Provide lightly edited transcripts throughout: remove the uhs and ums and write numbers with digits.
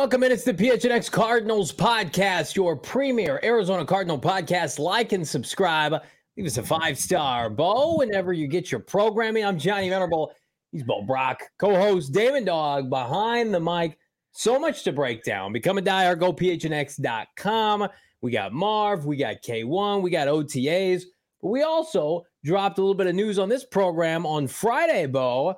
Welcome in. It's the PHNX Cardinals podcast, your premier Arizona Cardinal podcast. Like and subscribe. Leave us a 5-star, Bo, whenever you get your programming. I'm Johnny Venerable. He's Bo Brock. Co-host Damon Dog behind the mic. So much to break down. Become a diehard. Go PHNX.com. We got Marv. We got K1. We got OTAs. But we also dropped a little bit of news on this program on Friday, Bo.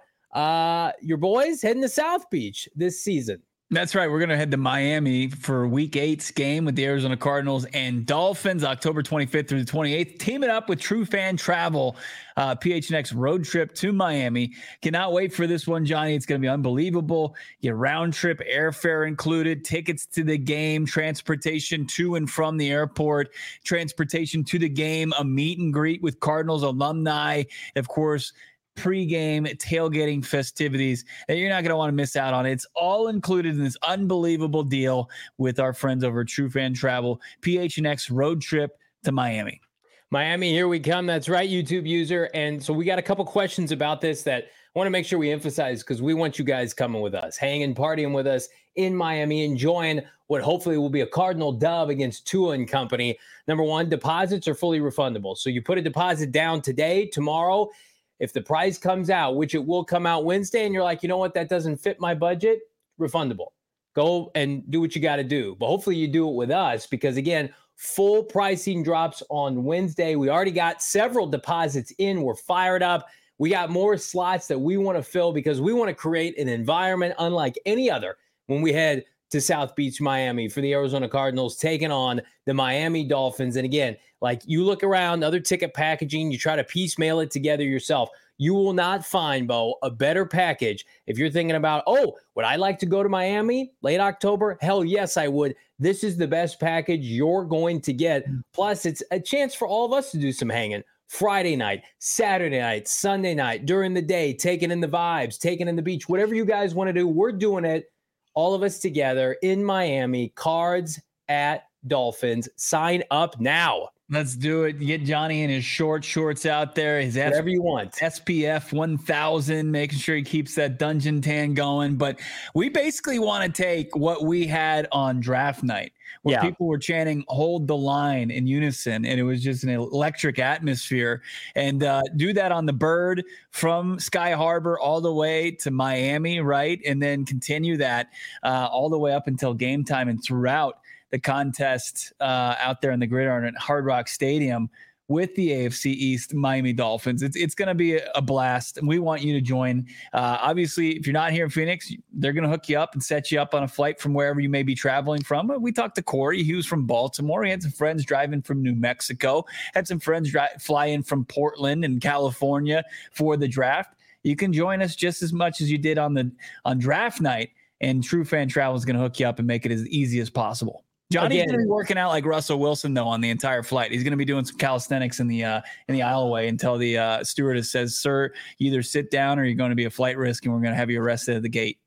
Your boys heading to South Beach this season. That's right. We're going to head to Miami for Week 8's game with the Arizona Cardinals and Dolphins, October 25th through the 28th. Teaming up with True Fan Travel, PHNX road trip to Miami. Cannot wait for this one, Johnny. It's going to be unbelievable. Get round trip airfare included, tickets to the game, transportation to and from the airport, transportation to the game, a meet and greet with Cardinals alumni, of course, pre-game tailgating festivities that you're not going to want to miss out on. It's all included in this unbelievable deal with our friends over at True Fan Travel, PHNX road trip to Miami. Miami, here we come. That's right, YouTube user. And so we got a couple questions about this that I want to make sure we emphasize because we want you guys coming with us, hanging, partying with us in Miami, enjoying what hopefully will be a Cardinal dub against Tua and company. Number one, deposits are fully refundable. So you put a deposit down today, tomorrow. If the price comes out, which it will come out Wednesday, and you're like, you know what, that doesn't fit my budget, refundable. Go and do what you got to do. But hopefully you do it with us because, again, full pricing drops on Wednesday. We already got several deposits in. We're fired up. We got more slots that we want to fill because we want to create an environment unlike any other when we head to South Beach, Miami for the Arizona Cardinals taking on the Miami Dolphins. And again, like you look around other ticket packaging, you try to piecemeal it together yourself. You will not find, Bo, a better package if you're thinking about, oh, would I like to go to Miami late October? Hell yes, I would. This is the best package you're going to get. Plus, it's a chance for all of us to do some hanging. Friday night, Saturday night, Sunday night, during the day, taking in the vibes, taking in the beach, whatever you guys want to do, we're doing it. All of us together in Miami, Cards at Dolphins. Sign up now. Let's do it. Get Johnny in his shorts out there. His whatever you want. SPF 1000, making sure he keeps that dungeon tan going. But we basically want to take what we had on draft night, where people were chanting, hold the line in unison. And it was just an electric atmosphere. And do that on the Bird from Sky Harbor all the way to Miami, right? And then continue that all the way up until game time and throughout the contest out there in the gridiron at Hard Rock Stadium with the AFC East Miami Dolphins. It's going to be a blast, and we want you to join. Obviously, if you're not here in Phoenix, they're going to hook you up and set you up on a flight from wherever you may be traveling from. We talked to Corey. He was from Baltimore. He had some friends driving from New Mexico, had some friends fly in from Portland and California for the draft. You can join us just as much as you did on draft night, and True Fan Travel is going to hook you up and make it as easy as possible. Johnny's going to be working out like Russell Wilson, though, on the entire flight. He's going to be doing some calisthenics in the aisleway until the stewardess says, sir, you either sit down or you're going to be a flight risk, and we're going to have you arrested at the gate.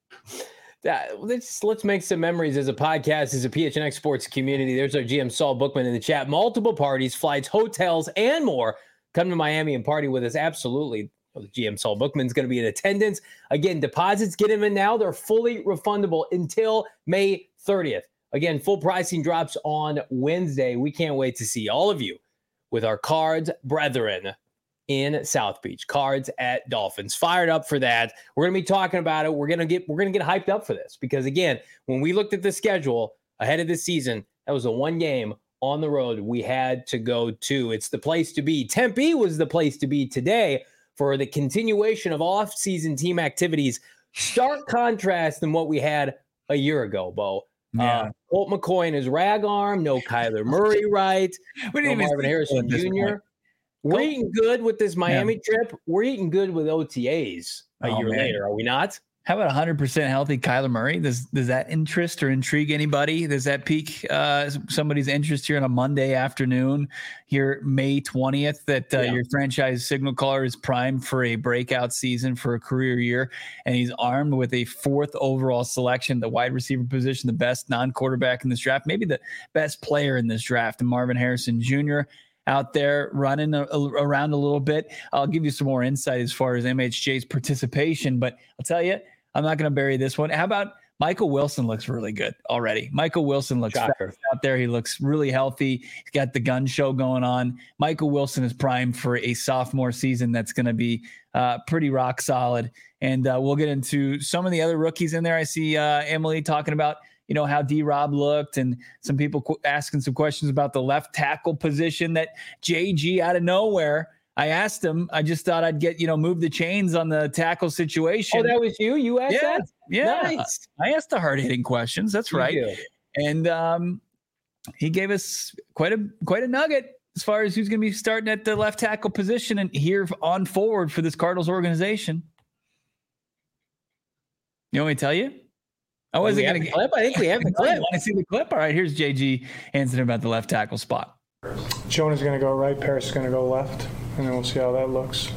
Let's make some memories as a podcast, as a PHNX sports community. There's our GM, Saul Bookman, in the chat. Multiple parties, flights, hotels, and more. Come to Miami and party with us. Absolutely. The GM, Saul Bookman's going to be in attendance. Again, deposits, get them in now. They're fully refundable until May 30th. Again, full pricing drops on Wednesday. We can't wait to see all of you with our Cards brethren in South Beach. Cards at Dolphins. Fired up for that. We're going to be talking about it. We're going to get hyped up for this because, again, when we looked at the schedule ahead of this season, that was the one game on the road we had to go to. It's the place to be. Tempe was the place to be today for the continuation of off-season team activities. Stark contrast than what we had a year ago, Bo. Yeah. Colt McCoy and his rag arm, no Kyler Murray, right? No Marvin Harrison Jr. We're eating good with this Miami trip. We're eating good with OTAs a year later, are we not? How about 100% healthy Kyler Murray? Does that interest or intrigue anybody? Does that pique somebody's interest here on a Monday afternoon, here May 20th, that your franchise signal caller is primed for a breakout season for a career year, and he's armed with a 4th overall selection, the wide receiver position, the best non-quarterback in this draft, maybe the best player in this draft, and Marvin Harrison Jr. out there running around a little bit. I'll give you some more insight as far as MHJ's participation, but I'll tell you, I'm not going to bury this one. How about Michael Wilson looks really good already. Michael Wilson looks fast out there. He looks really healthy. He's got the gun show going on. Michael Wilson is primed for a sophomore season that's going to be pretty rock solid. And we'll get into some of the other rookies in there. I see Emily talking about, how D-Rob looked, and some people asking some questions about the left tackle position that JG out of nowhere. I asked him, I just thought I'd get, move the chains on the tackle situation. Oh, that was you? You asked that? Yeah. Nice. I asked the hard-hitting questions. That's right. And he gave us quite a nugget as far as who's going to be starting at the left tackle position and here on forward for this Cardinals organization. You want me to tell you? I wasn't going to clip. I think we have the clip. Want to see the clip? All right, here's JG answering about the left tackle spot. Jonah's going to go right. Paris is going to go left. And then we'll see how that looks.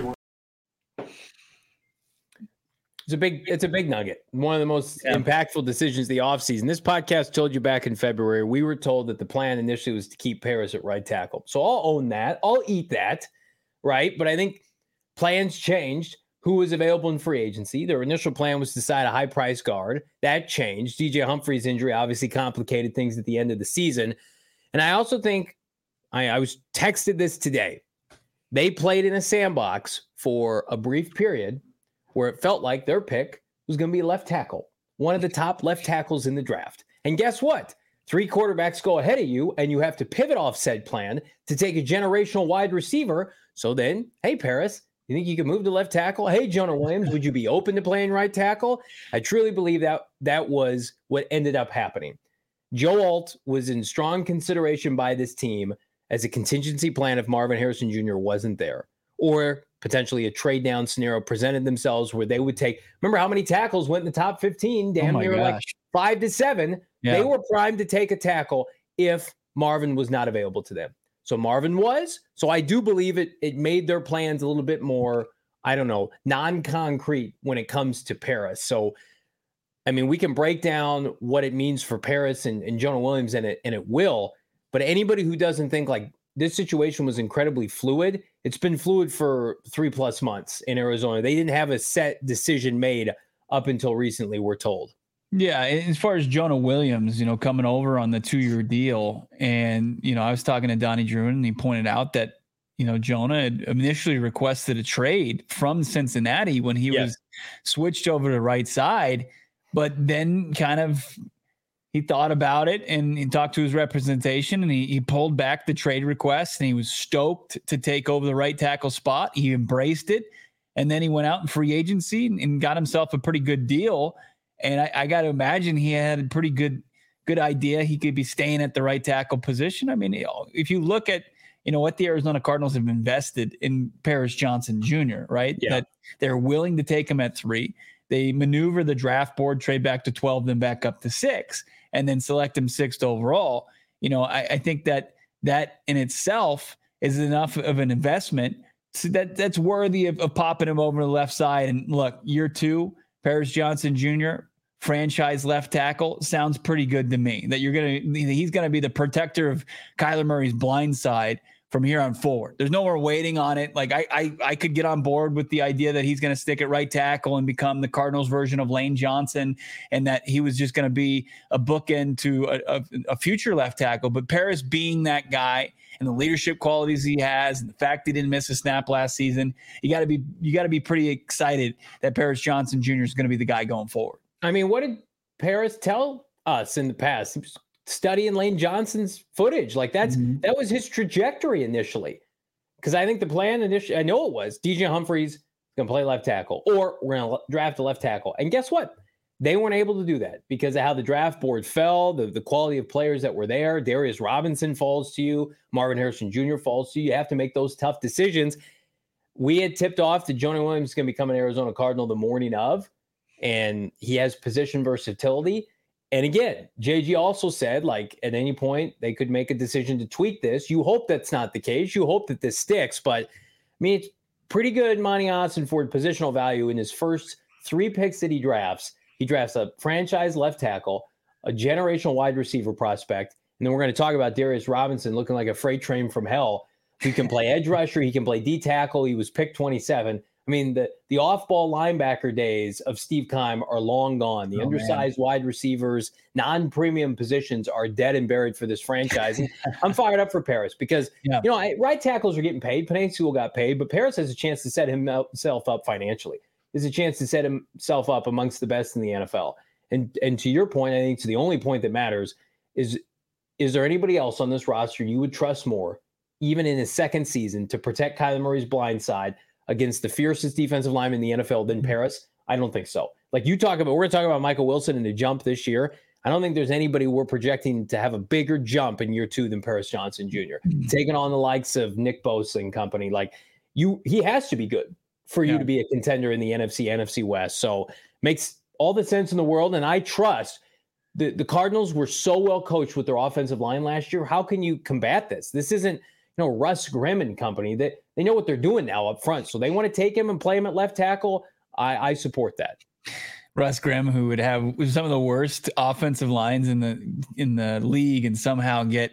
It's a big nugget. One of the most impactful decisions of the offseason. This podcast told you back in February, we were told that the plan initially was to keep Paris at right tackle. So I'll own that. I'll eat that, right? But I think plans changed. Who was available in free agency? Their initial plan was to sign a high-price guard. That changed. DJ Humphrey's injury obviously complicated things at the end of the season. And I also think, I was texted this today. They played in a sandbox for a brief period where it felt like their pick was going to be a left tackle, one of the top left tackles in the draft. And guess what? 3 quarterbacks go ahead of you, and you have to pivot off said plan to take a generational wide receiver. So then, hey, Paris, you think you can move to left tackle? Hey, Jonah Williams, would you be open to playing right tackle? I truly believe that was what ended up happening. Joe Alt was in strong consideration by this team as a contingency plan if Marvin Harrison Jr. wasn't there, or potentially a trade down scenario presented themselves where they would take, remember how many tackles went in the top 15, damn near like 5 to 7. Yeah. They were primed to take a tackle if Marvin was not available to them. So Marvin was, so I do believe it made their plans a little bit more, non-concrete when it comes to Paris. So, I mean, we can break down what it means for Paris and Jonah Williams, and it will. But anybody who doesn't think like this situation was incredibly fluid, it's been fluid for 3+ months in Arizona. They didn't have a set decision made up until recently, we're told. Yeah, as far as Jonah Williams, coming over on the 2-year deal, and, I was talking to Donnie Druin, and he pointed out that, Jonah had initially requested a trade from Cincinnati when he was switched over to the right side, but then kind of he thought about it and he talked to his representation, and he pulled back the trade request, and he was stoked to take over the right tackle spot. He embraced it. And then he went out in free agency and got himself a pretty good deal. And I got to imagine he had a pretty good idea. He could be staying at the right tackle position. I mean, if you look at, what the Arizona Cardinals have invested in Paris Johnson Jr., right? Yeah. That they're willing to take him at 3. They maneuver the draft board, trade back to 12, then back up to 6, and then select him 6th overall. I think that in itself is enough of an investment so that's worthy of popping him over to the left side. And look, year 2, Paris Johnson Jr., franchise left tackle, sounds pretty good to me. That he's gonna be the protector of Kyler Murray's blind side from here on forward. There's no more waiting on it. Like I could get on board with the idea that he's going to stick at right tackle and become the Cardinals version of Lane Johnson, and that he was just going to be a bookend to a future left tackle. But Paris being that guy and the leadership qualities he has, and the fact he didn't miss a snap last season, you got to be pretty excited that Paris Johnson Jr. is going to be the guy going forward. I mean, what did Paris tell us in the past? He was studying Lane Johnson's footage. Like that was his trajectory initially. Because I think the plan initially, I know it was DJ Humphries going to play left tackle, or we're going to draft a left tackle. And guess what? They weren't able to do that because of how the draft board fell, the quality of players that were there. Darius Robinson falls to you. Marvin Harrison Jr. falls to you. You have to make those tough decisions. We had tipped off that Jonah Williams is going to become an Arizona Cardinal the morning of, and he has position versatility. And again, JG also said, like, at any point they could make a decision to tweak this. You hope that's not the case. You hope that this sticks. But, I mean, it's pretty good Monty Ossenford positional value in his first 3 picks that he drafts. He drafts a franchise left tackle, a generational wide receiver prospect, and then we're going to talk about Darius Robinson looking like a freight train from hell. He can play edge rusher. He can play D tackle. He was picked 27. I I mean, the off-ball linebacker days of Steve Keim are long gone. The undersized wide receivers, non-premium positions are dead and buried for this franchise. And I'm fired up for Paris because, right tackles are getting paid. Penei Sewell got paid, but Paris has a chance to set himself up financially. There's a chance to set himself up amongst the best in the NFL. And to your point, I think it's the only point that matters is there anybody else on this roster you would trust more, even in his second season, to protect Kyler Murray's blind side against the fiercest defensive lineman in the NFL than Paris? I don't think so. Like we're going to talk about Michael Wilson and the jump this year. I don't think there's anybody we're projecting to have a bigger jump in year 2 than Paris Johnson Jr. Taking on the likes of Nick Bosa and company. Like he has to be good for you to be a contender in the NFC West. So makes all the sense in the world. And I trust the Cardinals were so well coached with their offensive line last year. How can you combat this? This isn't, Russ Grimm and company, that they know what they're doing now up front. So they want to take him and play him at left tackle. I support that. Russ Grimm, who would have some of the worst offensive lines in the league, and somehow get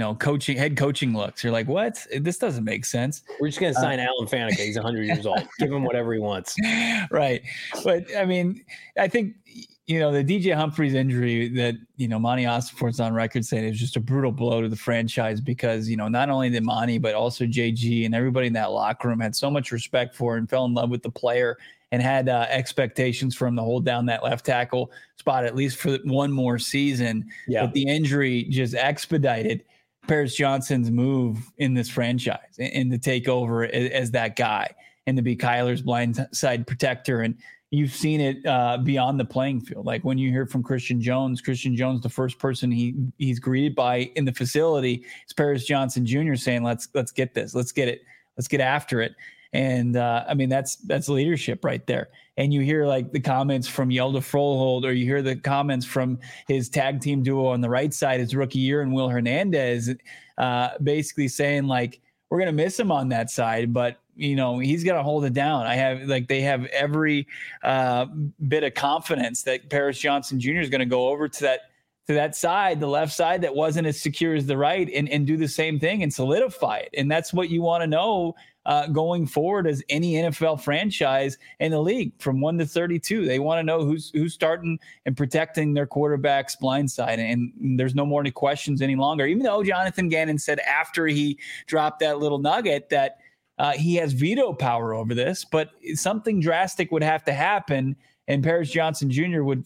head coaching looks. You're like, what? This doesn't make sense. We're just going to sign Alan Faneca. He's 100 years old. Give him whatever he wants. Right, but I mean, I think the DJ Humphries injury that Monty Ossenfort's on record saying it was just a brutal blow to the franchise because not only did Monty but also JG and everybody in that locker room had so much respect for and fell in love with the player and had expectations for him to hold down that left tackle spot at least for one more season. Yeah. But the injury just expedited Paris Johnson's move in this franchise and to take over as that guy and to be Kyler's blindside protector. And you've seen it beyond the playing field. Like when you hear from Christian Jones, the first person he's greeted by in the facility is Paris Johnson Jr. saying, let's get this, let's get it, let's get after it. And I mean, that's leadership right there. And you hear like the comments from Yelda Frohlhold, or you hear the comments from his tag team duo on the right side, his rookie year, and Will Hernandez, basically saying like, we're going to miss him on that side, but he's got to hold it down. They have every bit of confidence that Paris Johnson Jr. is going to go over to that side, the left side that wasn't as secure as the right, and do the same thing and solidify it. And that's what you want to know going forward as any NFL franchise in the league from 1 to 32. They want to know who's starting and protecting their quarterback's blind side. And there's no more questions any longer, even though Jonathan Gannon said after he dropped that little nugget that he has veto power over this, but something drastic would have to happen. And Paris Johnson Jr. would,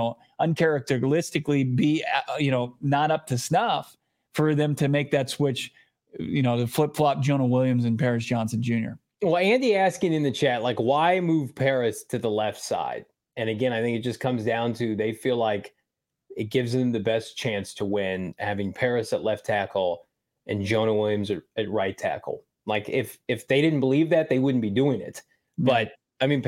uncharacteristically be, not up to snuff for them to make that switch, to flip-flop Jonah Williams and Paris Johnson Jr. Well, Andy asking in the chat, like, why move Paris to the left side? And again, I think it just comes down to they feel like it gives them the best chance to win, having Paris at left tackle and Jonah Williams at right tackle. Like, if they didn't believe that, they wouldn't be doing it. But, I mean,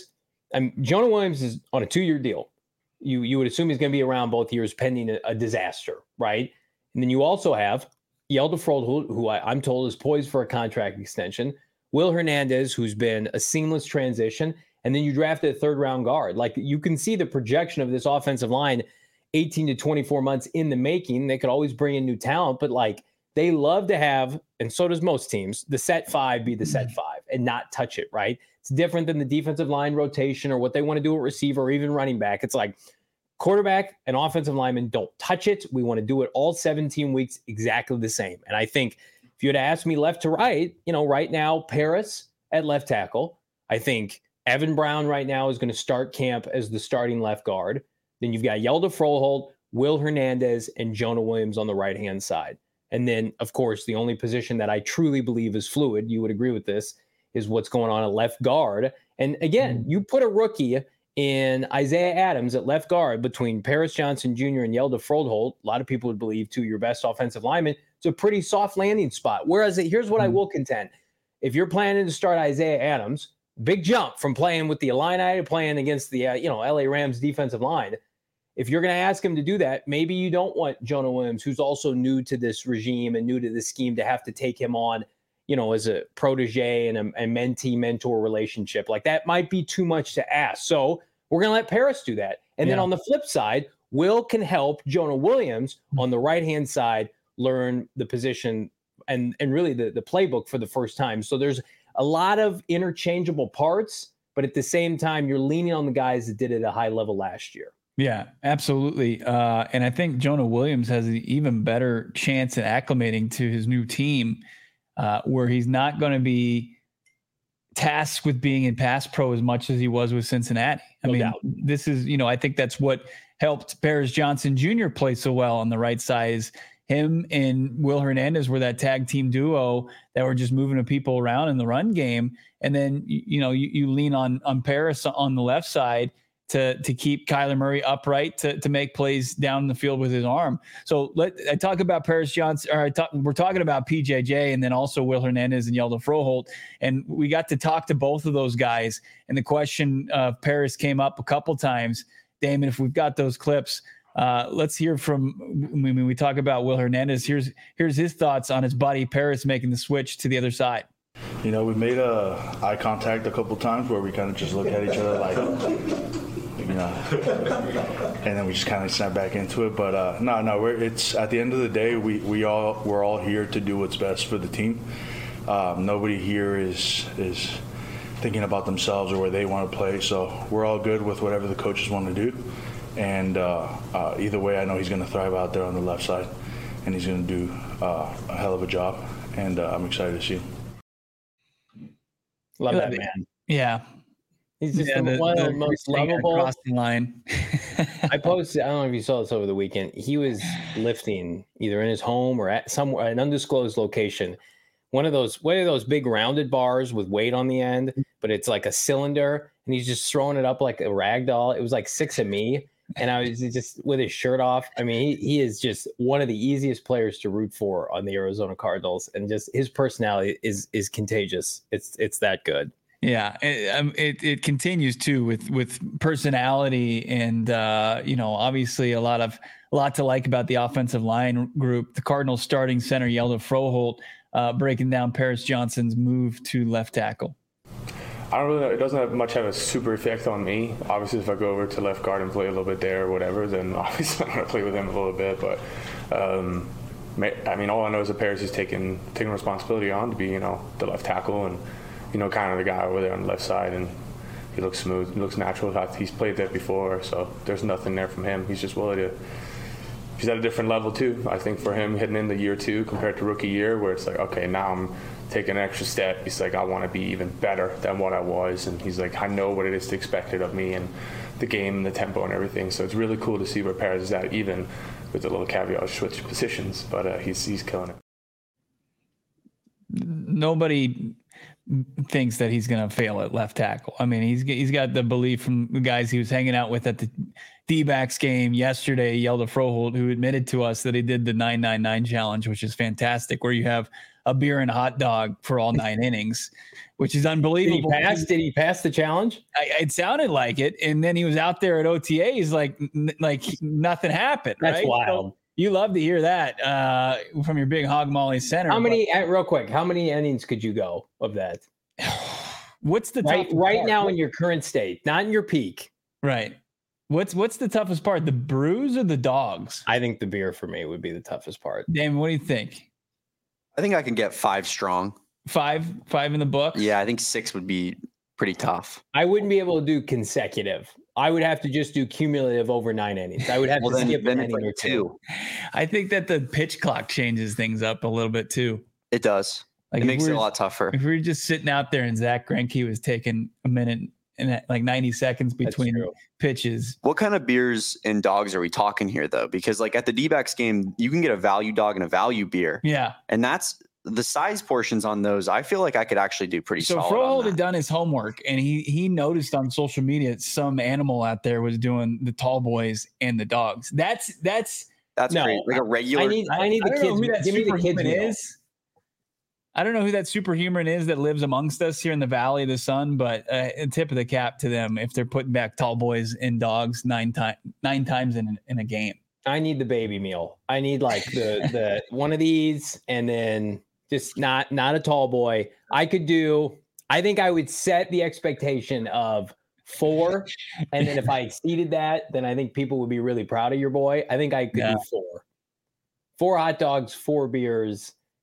Jonah Williams is on a 2-year deal. You would assume he's going to be around both years pending a disaster, right? And then you also have Yelda Frohlhold, who I'm told is poised for a contract extension, Will Hernandez, who's been a seamless transition, and then you drafted a third-round guard. Like, you can see the projection of this offensive line 18 to 24 months in the making. They could always bring in new talent, but, like, they love to have, and so does most teams, the set 5 be the set 5 and not touch it, right? It's different than the defensive line rotation or what they want to do at receiver or even running back. It's like quarterback and offensive lineman don't touch it. We want to do it all 17 weeks exactly the same. And I think if you had asked me left to right, right now, Paris at left tackle. I think Evan Brown right now is going to start camp as the starting left guard. Then you've got Yelda Frohlhold, Will Hernandez, and Jonah Williams on the right-hand side. And then, of course, the only position that I truly believe is fluid, you would agree with this, is what's going on at left guard. And again, you put a rookie in Isaiah Adams at left guard between Paris Johnson Jr. and Yelda Frohlhold. A lot of people would believe two your best offensive linemen. It's a pretty soft landing spot. Whereas here's what I will contend. If you're planning to start Isaiah Adams, big jump from playing with the Illini to playing against the LA Rams defensive line. If you're going to ask him to do that, maybe you don't want Jonah Williams, who's also new to this regime and new to this scheme, to have to take him on, as a protege and a mentee-mentor relationship. Like, that might be too much to ask. So we're going to let Paris do that. And then on the flip side, Will can help Jonah Williams on the right-hand side learn the position and really the playbook for the first time. So there's a lot of interchangeable parts, but at the same time, you're leaning on the guys that did it at a high level last year. Yeah, absolutely. And I think Jonah Williams has an even better chance at acclimating to his new team, where he's not going to be tasked with being in pass pro as much as he was with Cincinnati. No doubt. This is, I think that's what helped Paris Johnson Jr. play so well on the right side. Is him and Will Hernandez were that tag team duo that were just moving the people around in the run game. And then, you lean on Paris on the left side to keep Kyler Murray upright to make plays down the field with his arm. So I talk about Paris Johnson, we're talking about PJJ and then also Will Hernandez and Hjalte Froholdt. And we got to talk to both of those guys. And the question of Paris came up a couple times. Damon, if we've got those clips, let's hear from, when we talk about Will Hernandez, here's his thoughts on his buddy Paris making the switch to the other side. We made eye contact a couple times where we kind of just look at each other like, and then we just kind of snap back into it. But it's at the end of the day, we're all here to do what's best for the team. Nobody here is thinking about themselves or where they want to play. So we're all good with whatever the coaches want to do. And either way, I know he's going to thrive out there on the left side, and he's going to do a hell of a job. And I'm excited to see him. Love that man. Yeah. He's just one of the most lovable. Crossing line. I posted, I don't know if you saw this over the weekend. He was lifting either in his home or at somewhere, an undisclosed location. One of those big rounded bars with weight on the end, but it's like a cylinder, and he's just throwing it up like a rag doll. It was like 6 of me, and I was just with his shirt off. I mean, he is just one of the easiest players to root for on the Arizona Cardinals, and just his personality is contagious. It's that good. Yeah, it continues too with personality and obviously a lot to like about the offensive line group. The Cardinals starting center Hjalte Froholdt breaking down Paris Johnson's move to left tackle. I don't really know. It doesn't have a super effect on me. Obviously, if I go over to left guard and play a little bit there or whatever, then obviously I'm going to play with him a little bit. But all I know is that Paris is taking responsibility on to be the left tackle and kind of the guy over there on the left side, and he looks smooth. He looks natural. He's played that before, so there's nothing there from him. He's just willing to. He's at a different level too. I think for him heading into year 2 compared to rookie year, where it's like, okay, now I'm taking an extra step. He's like, I want to be even better than what I was, and he's like, I know what it is to expected of me and the game and the tempo and everything. So it's really cool to see where Paris is at, even with a little caveat of switch positions. But he's killing it. Nobody thinks that he's going to fail at left tackle. I mean, he's got the belief from the guys he was hanging out with at the D-backs game yesterday, Hjalte Froholdt, who admitted to us that he did the 999 challenge, which is fantastic, where you have a beer and a hot dog for all 9 innings, which is unbelievable. Did he pass the challenge? It sounded like it. And then he was out there at OTAs like nothing happened. That's right? wild. So you love to hear that from your big Hog Molly center. Real quick, how many innings could you go of that? What's the right now in your current state, not in your peak? Right. What's the toughest part? The brews or the dogs? I think the beer for me would be the toughest part. Damon, what do you think? I think I can get 5 strong. 5 in the book? Yeah, I think 6 would be pretty tough. I wouldn't be able to do consecutive. I would have to just do cumulative over 9 innings. I would have to skip an inning or 2. I think that the pitch clock changes things up a little bit too. It does. It makes it a lot tougher. If we were just sitting out there and Zach Greinke was taking a minute and like 90 seconds between pitches. What kind of beers and dogs are we talking here though? Because like at the D-backs game, you can get a value dog and a value beer. Yeah. And that's the size portions on those. I feel like I could actually do pretty solid. So Froholdt had done his homework and he noticed on social media some animal out there was doing the tall boys and the dogs. That's no, great. Like a regular. I need the kids. Give me the kids meal. I don't know who that superhuman is that lives amongst us here in the Valley of the Sun, but a tip of the cap to them if they're putting back tall boys and dogs 9 times in a game. I need the baby meal. I need like the one of these, and then just not a tall boy. I think I would set the expectation of 4, and then if I exceeded that, then I think people would be really proud of your boy. I think I could do 4 hot dogs, 4 beers.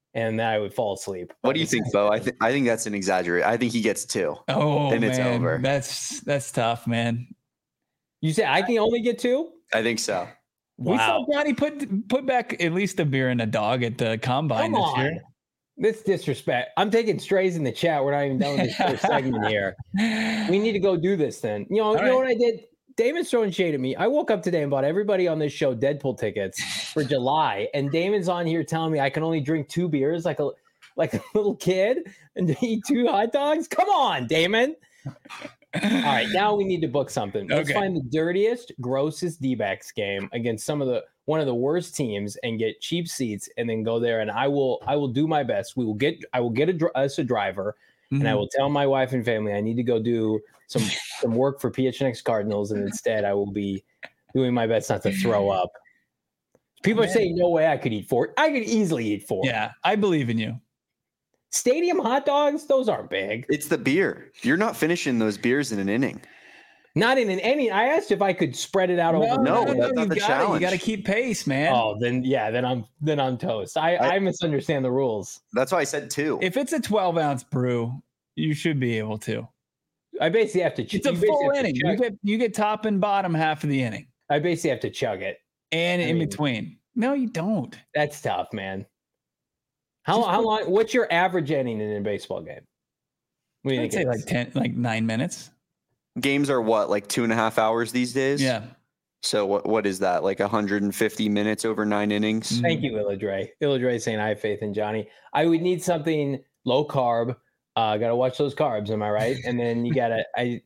and then I would fall asleep. What do you think, Bo? I think that's an exaggerate. I think he gets 2. Oh, and it's over. That's tough, man. You say I can only get 2? I think so. We Wow. saw Johnny put back at least a beer and a dog at the combine Come this on. year. This disrespect. I'm taking strays in the chat. We're not even done with this first segment here. We need to go do this then. You know what I did? Damon's throwing shade at me. I woke up today and bought everybody on this show Deadpool tickets for July, and Damon's on here telling me I can only drink 2 beers like a little kid and eat 2 hot dogs. Come on, Damon. All right, now we need to book something. Let's find the dirtiest, grossest D-backs game against one of the worst teams and get cheap seats, and then go there. And I will do my best. I will get us a driver, and I will tell my wife and family I need to go do some work for PHNX Cardinals, and instead I will be doing my best not to throw up. People are saying no way I could eat 4. I could easily eat 4. Yeah, I believe in you. Stadium hot dogs, those aren't big. It's the beer. You're not finishing those beers in an inning. Not in an inning. I asked if I could spread it out over. No, that's not the challenge. You got to keep pace, man. Oh, then I'm toast. I misunderstand the rules. That's why I said 2. If it's a 12-ounce brew, you should be able to. I basically have to. It's a full inning. You get top and bottom half of the inning. I basically have to chug it. And in between. No, you don't. That's tough, man. How long? What's your average inning in a baseball game? What do you think? I'd say like 9 minutes. Games are what, like 2.5 hours these days? Yeah. So what is that? Like 150 minutes over 9 innings? Thank you, Illadre. Illadre saying I have faith in Johnny. I would need something low carb. Gotta watch those carbs, am I right? And then you gotta I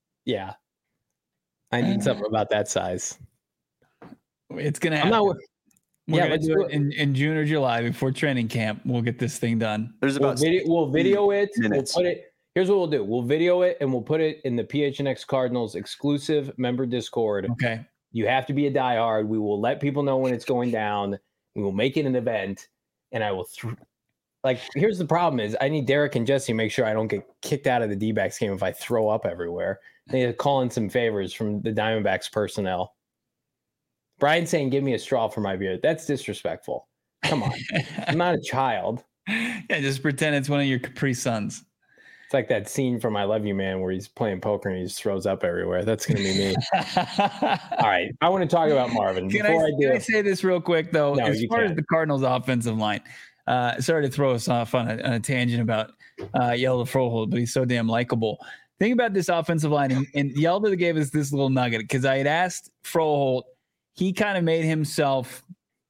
need something about that size. It's gonna happen. We're gonna let's do it in June or July before training camp. We'll get this thing done. There's about we'll video it. minutes. We'll put it. Here's what we'll do. We'll video it and we'll put it in the PHNX Cardinals exclusive member Discord. Okay. You have to be a diehard. We will let people know when it's going down. We will make it an event, and I will. Here's the problem: is I need Derek and Jesse to make sure I don't get kicked out of the D-backs game if I throw up everywhere. They need to call in some favors from the Diamondbacks personnel. Brian's saying, "Give me a straw for my beer." That's disrespectful. Come on, I'm not a child. Yeah, just pretend it's one of your Capri Suns. It's like that scene from I Love You, Man, where he's playing poker and he just throws up everywhere. That's going to be me. All right. I want to talk about Marvin. Can I say this real quick, though? No, as far as the Cardinals' offensive line, sorry to throw us off on a tangent about Yelda Froholt, but he's so damn likable. Think about this offensive line, and Yelda gave us this little nugget because I had asked Froholt. He kind of made himself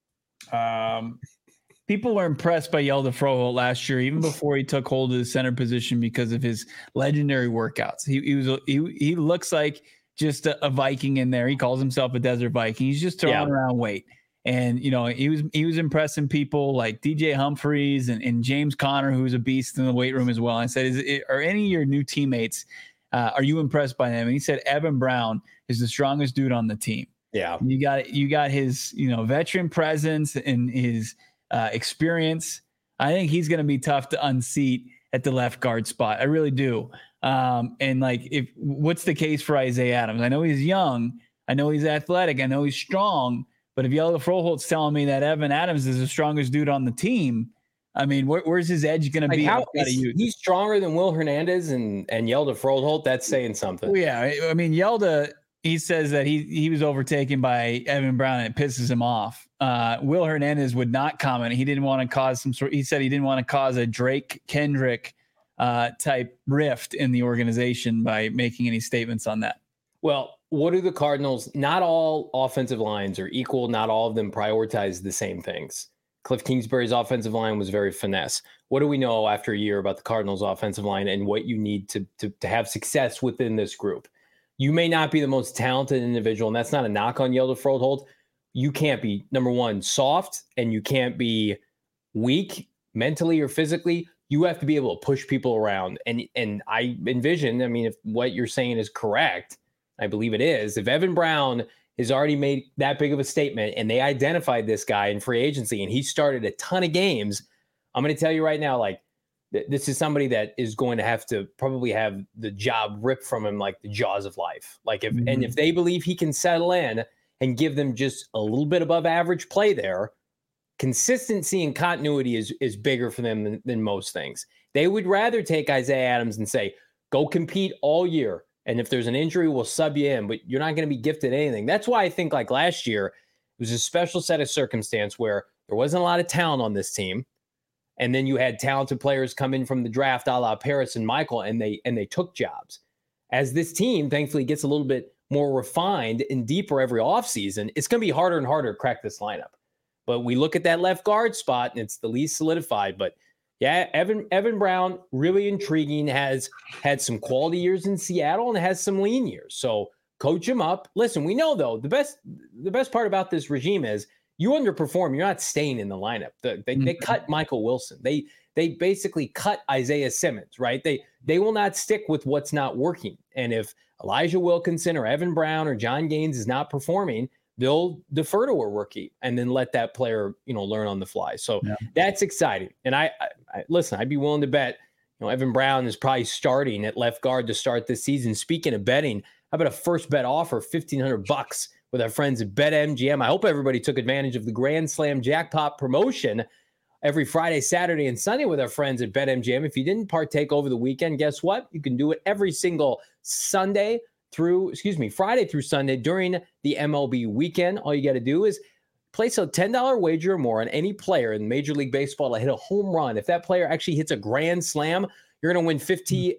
people were impressed by Yelda Froholt last year, even before he took hold of the center position because of his legendary workouts. He looks like just a Viking in there. He calls himself a desert Viking. He's just throwing around weight. And, you know, he was impressing people like DJ Humphreys and James Conner, who's a beast in the weight room as well. And I said, are any of your new teammates, are you impressed by them? And he said, Evan Brown is the strongest dude on the team. Yeah. You got his, veteran presence and his experience. I think he's going to be tough to unseat at the left guard spot. I really do. And what's the case for Isaiah Adams? I know he's young. I know he's athletic. I know he's strong. But if Yelda Froholt's telling me that Evan Adams is the strongest dude on the team, I mean, where's his edge going to be? He's stronger than Will Hernandez and Yelda Froholt. That's saying something. Well, yeah. I mean, Yelda, he says that he was overtaken by Evan Brown and it pisses him off. Will Hernandez would not comment. He didn't want to cause he said he didn't want to cause a Drake Kendrick type rift in the organization by making any statements on that. Well, what do the Cardinals? Not all offensive lines are equal. Not all of them prioritize the same things. Cliff Kingsbury's offensive line was very finesse. What do we know after a year about the Cardinals' offensive line and what you need to have success within this group? You may not be the most talented individual, and that's not a knock on Yelda Froholt. You can't be, number one, soft, and you can't be weak mentally or physically. You have to be able to push people around. And I envision, I mean, if what you're saying is correct, I believe it is. If Evan Brown has already made that big of a statement and they identified this guy in free agency and he started a ton of games, I'm going to tell you right now, this is somebody that is going to have to probably have the job ripped from him like the jaws of life. And if they believe he can settle in and give them just a little bit above average play there, consistency and continuity is bigger for them than most things. They would rather take Isaiah Adams and say, go compete all year. And if there's an injury, we'll sub you in, but you're not going to be gifted anything. That's why I think like last year, it was a special set of circumstance where there wasn't a lot of talent on this team. And then you had talented players come in from the draft, a la Paris and Michael, and they took jobs. As this team, thankfully, gets a little bit more refined and deeper every offseason, it's going to be harder and harder to crack this lineup. But we look at that left guard spot, and it's the least solidified. But yeah, Evan Brown, really intriguing, has had some quality years in Seattle and has some lean years. So coach him up. Listen, we know, though, the best part about this regime is you underperform, you're not staying in the lineup. They cut Michael Wilson. They basically cut Isaiah Simmons, right? They will not stick with what's not working. And if Elijah Wilkinson or Evan Brown or John Gaines is not performing, they'll defer to a rookie and then let that player, learn on the fly. So that's exciting. And I listen, I'd be willing to bet, Evan Brown is probably starting at left guard to start this season. Speaking of betting, how about a first bet offer, $1,500 with our friends at BetMGM? I hope everybody took advantage of the Grand Slam jackpot promotion every Friday, Saturday, and Sunday with our friends at BetMGM. If you didn't partake over the weekend, guess what? You can do it every single Friday through Sunday during the MLB weekend. All you got to do is place a $10 wager or more on any player in Major League Baseball to hit a home run. If that player actually hits a grand slam, you're going to win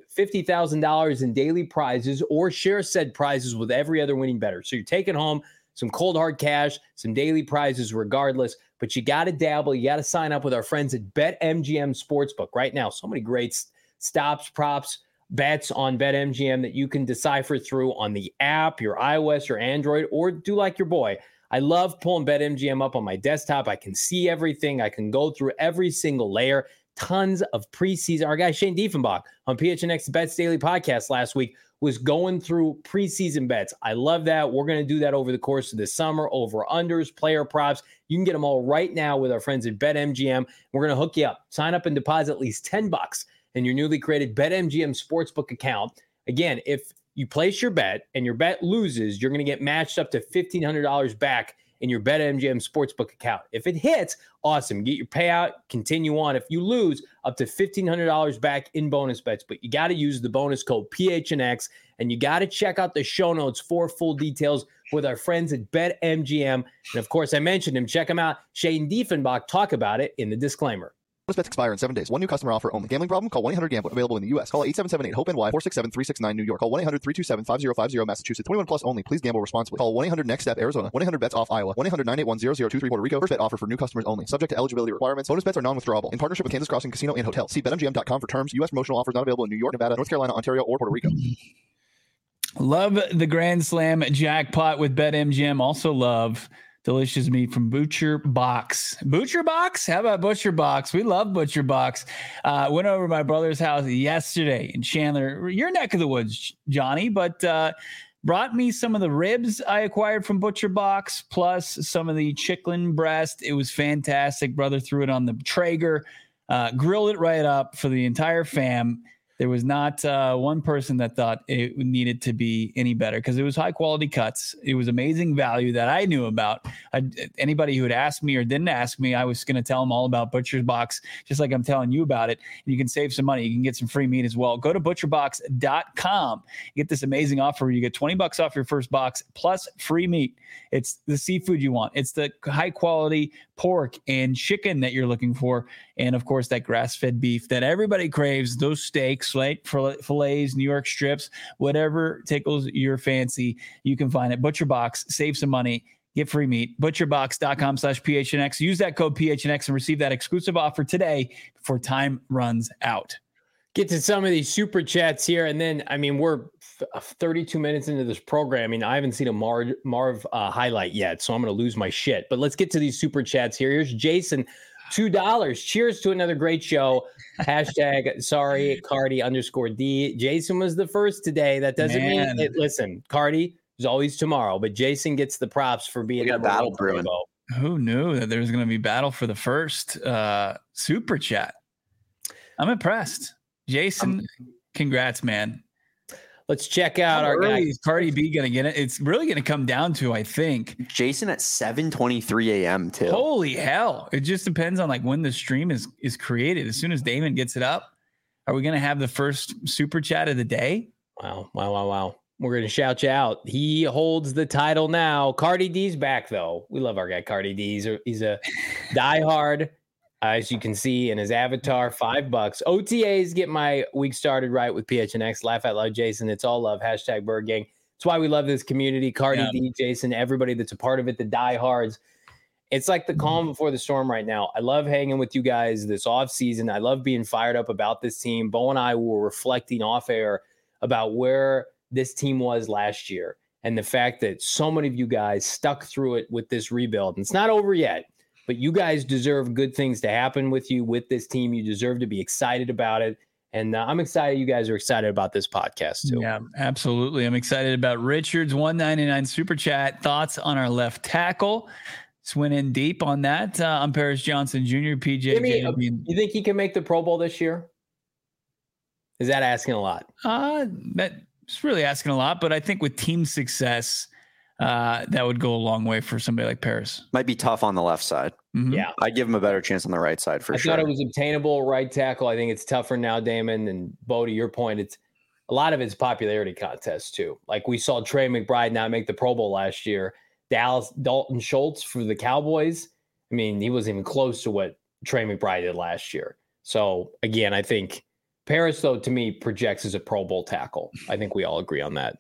$50,000 in daily prizes or share said prizes with every other winning bettor. So you're taking home some cold hard cash, some daily prizes regardless, but you got to dabble. You got to sign up with our friends at BetMGM Sportsbook right now. So many great stops, props, bets on BetMGM that you can decipher through on the app, your iOS or Android, or do like your boy. I love pulling BetMGM up on my desktop. I can see everything. I can go through every single layer. Tons of preseason. Our guy Shane Diefenbach on PHNX Bets Daily Podcast last week was going through preseason bets. I love that. We're going to do that over the course of the summer, over unders, player props. You can get them all right now with our friends at BetMGM. We're going to hook you up. Sign up and deposit at least $10 in your newly created BetMGM Sportsbook account. Again, if you place your bet and your bet loses, you're going to get matched up to $1,500 back in your BetMGM Sportsbook account. If it hits, awesome. Get your payout, continue on. If you lose, up to $1,500 back in bonus bets. But you got to use the bonus code PHNX, and you got to check out the show notes for full details with our friends at BetMGM. And of course, I mentioned him. Check him out. Shane Diefenbach talk about it in the disclaimer. Bonus bets expire in 7 days. One new customer offer only. Gambling problem? Call 1-800-GAMBLER. Available in the U.S. Call 877-8-HOPE-NY 467-369 New York. Call 1-800-327-5050 Massachusetts. 21 plus only. Please gamble responsibly. Call 1-800-NEXT-STEP Arizona. 1-800-BETS-OFF Iowa. 1-800-981-0023 Puerto Rico. First bet offer for new customers only. Subject to eligibility requirements. Bonus bets are non-withdrawable. In partnership with Kansas Crossing Casino and Hotel. See BetMGM.com for terms. U.S. promotional offers not available in New York, Nevada, North Carolina, Ontario, or Puerto Rico. Love the Grand Slam jackpot with BetMGM. Also love delicious meat from Butcher Box. Butcher Box? How about Butcher Box? We love Butcher Box. Went over to my brother's house yesterday in Chandler, your neck of the woods, Johnny, but brought me some of the ribs I acquired from Butcher Box, plus some of the chicken breast. It was fantastic. Brother threw it on the Traeger, grilled it right up for the entire fam. There was not one person that thought it needed to be any better because it was high quality cuts. It was amazing value that I knew about. Anybody who had asked me or didn't ask me, I was going to tell them all about Butcher's Box, just like I'm telling you about it. And you can save some money. You can get some free meat as well. Go to butcherbox.com. Get this amazing offer where you get $20 off your first box plus free meat. It's the seafood you want. It's the high quality pork and chicken that you're looking for. And of course, that grass-fed beef that everybody craves, those steaks, like fillets, New York strips, whatever tickles your fancy, you can find it. Butcher Box, save some money, get free meat. Butcherbox.com/PHNX. Use that code PHNX and receive that exclusive offer today before time runs out. Get to some of these super chats here. And then, we're 32 minutes into this program. I haven't seen a Marv highlight yet, so I'm going to lose my shit. But let's get to these super chats here. Here's Jason, $2. Cheers to another great show. Hashtag sorry, Cardi _D. Jason was the first today. That doesn't mean it. Listen, Cardi is always tomorrow, but Jason gets the props for being. We got a battle brewing. Who knew that there was going to be battle for the first super chat? I'm impressed. Jason, congrats, man. Let's check out How our early guy. is Cardi B going to get it? It's really going to come down to, I think. Jason at 7:23 a.m. too. Holy hell. It just depends on like when the stream is created. As soon as Damon gets it up, are we going to have the first super chat of the day? Wow. We're going to shout you out. He holds the title now. Cardi D's back, though. We love our guy, Cardi D. He's a diehard, as you can see in his avatar, $5. OTAs get my week started right with PHNX. Laugh out loud, Jason. It's all love. Hashtag Bird Gang. It's why we love this community. Cardi D, Jason, everybody that's a part of it, the diehards. It's like the calm before the storm right now. I love hanging with you guys this off season. I love being fired up about this team. Bo and I were reflecting off air about where this team was last year and the fact that so many of you guys stuck through it with this rebuild. And it's not over yet, but you guys deserve good things to happen with you, with this team. You deserve to be excited about it. And I'm excited you guys are excited about this podcast too. Yeah, absolutely. I'm excited about Richard's $1.99 super chat. Thoughts on our left tackle? Just went in deep on that. I'm Paris Johnson Jr., PJ. You think he can make the Pro Bowl this year? Is that asking a lot? That's really asking a lot, but I think with team success, that would go a long way for somebody like Paris. Might be tough on the left side. Mm-hmm. Yeah. I'd give him a better chance on the right side for sure. I thought it was obtainable right tackle. I think it's tougher now, Damon. And Bo, to your point, it's a lot of it's popularity contest too. Like we saw Trey McBride not make the Pro Bowl last year. Dalton Schultz for the Cowboys. I mean, he wasn't even close to what Trey McBride did last year. So again, I think Paris, though, to me, projects as a Pro Bowl tackle. I think we all agree on that.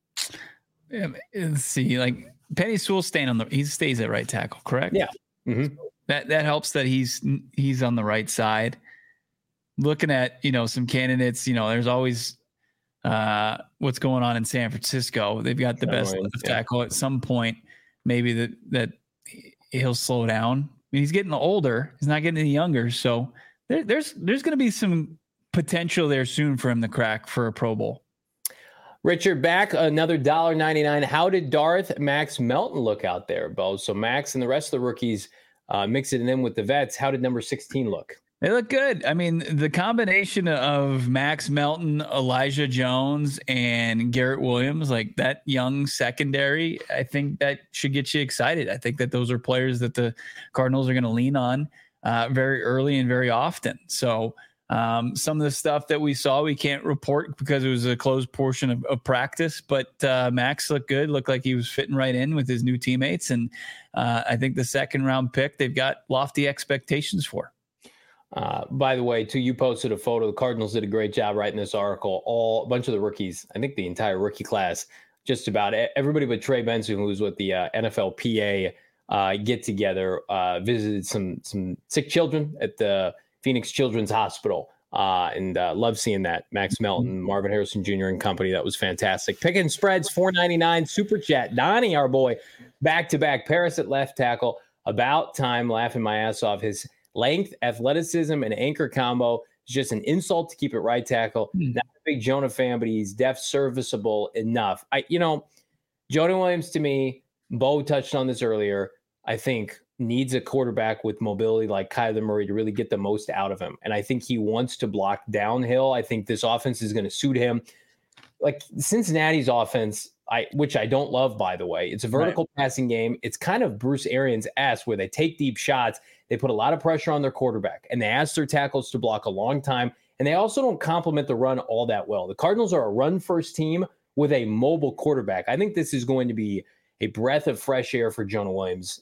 Yeah, let's see. Like Penny Sewell he stays at right tackle, correct? Yeah. Mm-hmm. That helps that he's on the right side. Looking at, some candidates, there's always what's going on in San Francisco. They've got the best left tackle. At some point, maybe that he'll slow down. I mean, he's getting older. He's not getting any younger. So there's going to be some potential there soon for him to crack for a Pro Bowl. Richard, back another $1.99. How did Darth Max Melton look out there, Bo? So Max and the rest of the rookies mixing it in with the vets. How did number 16 look? They look good. I mean, the combination of Max Melton, Elijah Jones, and Garrett Williams, like that young secondary, I think that should get you excited. I think that those are players that the Cardinals are going to lean on very early and very often. So some of the stuff that we saw, we can't report because it was a closed portion of practice, but Max looked good, looked like he was fitting right in with his new teammates. And I think the second round pick, they've got lofty expectations for. By the way, too, you posted a photo. The Cardinals did a great job writing this article. A bunch of the rookies, I think the entire rookie class, just about everybody but Trey Benson, who was with the NFLPA get together, visited some sick children at the Phoenix Children's Hospital, and love seeing that. Max Melton, Marvin Harrison Jr. and company. That was fantastic. Picking spreads, $4.99 super chat. Donnie, our boy, back-to-back. Paris at left tackle. About time, laughing my ass off. His length, athleticism, and anchor combo is just an insult to keep it right tackle. Not a big Jonah fan, but he's def serviceable enough. Jonah Williams, to me, Bo touched on this earlier, I think needs a quarterback with mobility like Kyler Murray to really get the most out of him. And I think he wants to block downhill. I think this offense is going to suit him. Like Cincinnati's offense, which I don't love, by the way. It's a vertical passing game. It's kind of Bruce Arians-esque where they take deep shots. They put a lot of pressure on their quarterback, and they ask their tackles to block a long time. And they also don't complement the run all that well. The Cardinals are a run-first team with a mobile quarterback. I think this is going to be a breath of fresh air for Jonah Williams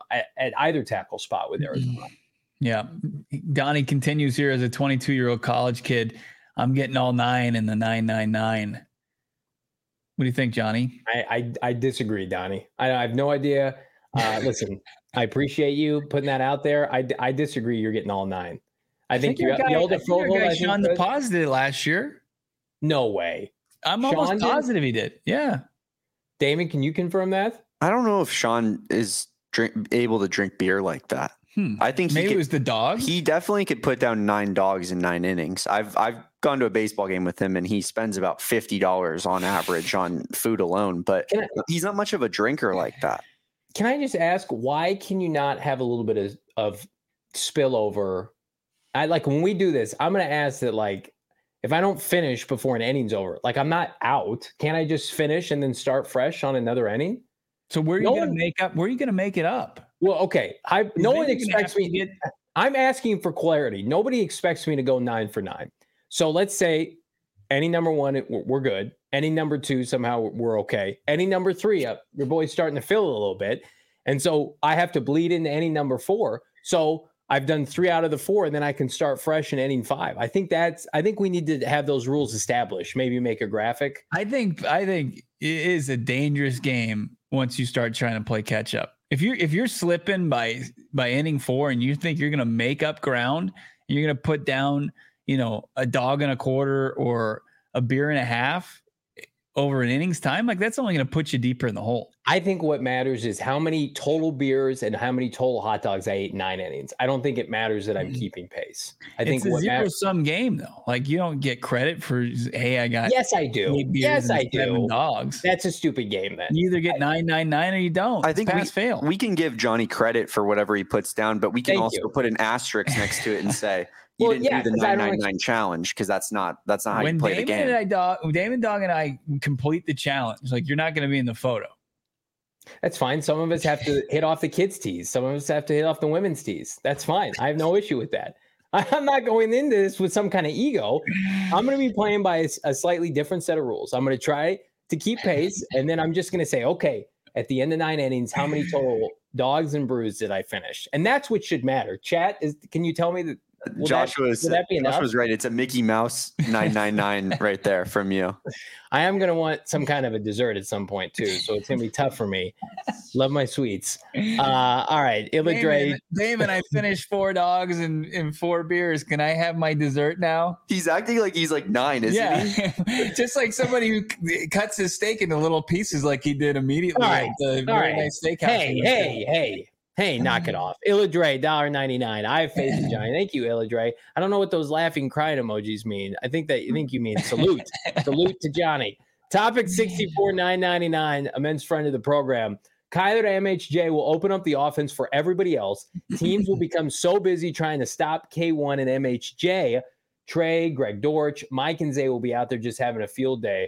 at either tackle spot with Arizona. Yeah. Donnie continues here as a 22-year-old college kid. I'm getting all 9 in the 999. What do you think, Johnny? I disagree, Donnie. I have no idea. Listen, I appreciate you putting that out there. I disagree. You're getting all 9. I think you're the older Fogle. Sean deposited last year. No way. I'm almost positive he did. Yeah. Damon, can you confirm that? I don't know if Sean is able to drink beer like that. I think maybe it was the dog. He definitely could put down 9 dogs in 9 innings. I've gone to a baseball game with him, and he spends about $50 on average on food alone. But he's not much of a drinker like that. Can I just ask, why can you not have a little bit of spillover? When we do this, I'm going to ask that, if I don't finish before an inning's over, like I'm not out. Can't I just finish and then start fresh on another inning? So where are you going to make up? Where are you going to make it up? Well, okay. No one expects me. I'm asking for clarity. Nobody expects me to go 9 for 9. So let's say any number 1, we're good. Any number 2, somehow we're okay. Any number 3, your boy's starting to fill a little bit. And so I have to bleed into any number 4. So I've done 3 out of the 4, and then I can start fresh in inning 5. I think we need to have those rules established. Maybe make a graphic. I think it is a dangerous game once you start trying to play catch up. If you're slipping by inning 4 and you think you're going to make up ground, and you're going to put down, a dog and a quarter or a beer and a half over an innings time, like that's only going to put you deeper in the hole. I think what matters is how many total beers and how many total hot dogs I ate in 9 innings. I don't think it matters that I'm keeping pace. I think it's a zero-sum game though. Like you don't get credit for, hey, I got. Yes, I do. Yes, I do. 7 dogs. That's a stupid game then. You either get 9 or you don't. I think we can give Johnny credit for whatever he puts down, but we can also put an asterisk next to it and say, you didn't do the 999 challenge because that's not how you play the game. Damon Dog and I complete the challenge. Like you're not going to be in the photo. That's fine. Some of us have to hit off the kids' tees. Some of us have to hit off the women's tees. That's fine. I have no issue with that. I'm not going into this with some kind of ego. I'm going to be playing by a slightly different set of rules. I'm going to try to keep pace, and then I'm just going to say, okay, at the end of 9 innings, how many total dogs and brews did I finish? And that's what should matter. Chat, can you tell me that? Josh was right. It's a Mickey Mouse 999 right there from you. I am going to want some kind of a dessert at some point too. So it's going to be tough for me. Love my sweets. All right. Damon, I finished 4 dogs and 4 beers. Can I have my dessert now? He's acting like he's like 9, isn't he? Just like somebody who cuts his steak into little pieces like he did immediately. All right. At the very nice steakhouse. Hey, knock it off. Illadre, $1.99. I have faith in Johnny. Thank you, Illadre. I don't know what those laughing, crying emojis mean. I think you mean salute. Salute to Johnny. Topic 64, $9.99, a men's friend of the program. Kyler to MHJ will open up the offense for everybody else. Teams will become so busy trying to stop K1 and MHJ. Trey, Greg Dortch, Mike and Zay will be out there just having a field day.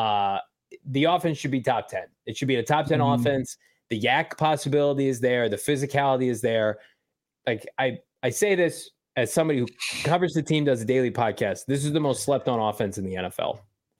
The offense should be top 10. It should be a top 10 offense. The yak possibility is there. The physicality is there. Like I say this as somebody who covers the team, does a daily podcast. This is the most slept on offense in the NFL.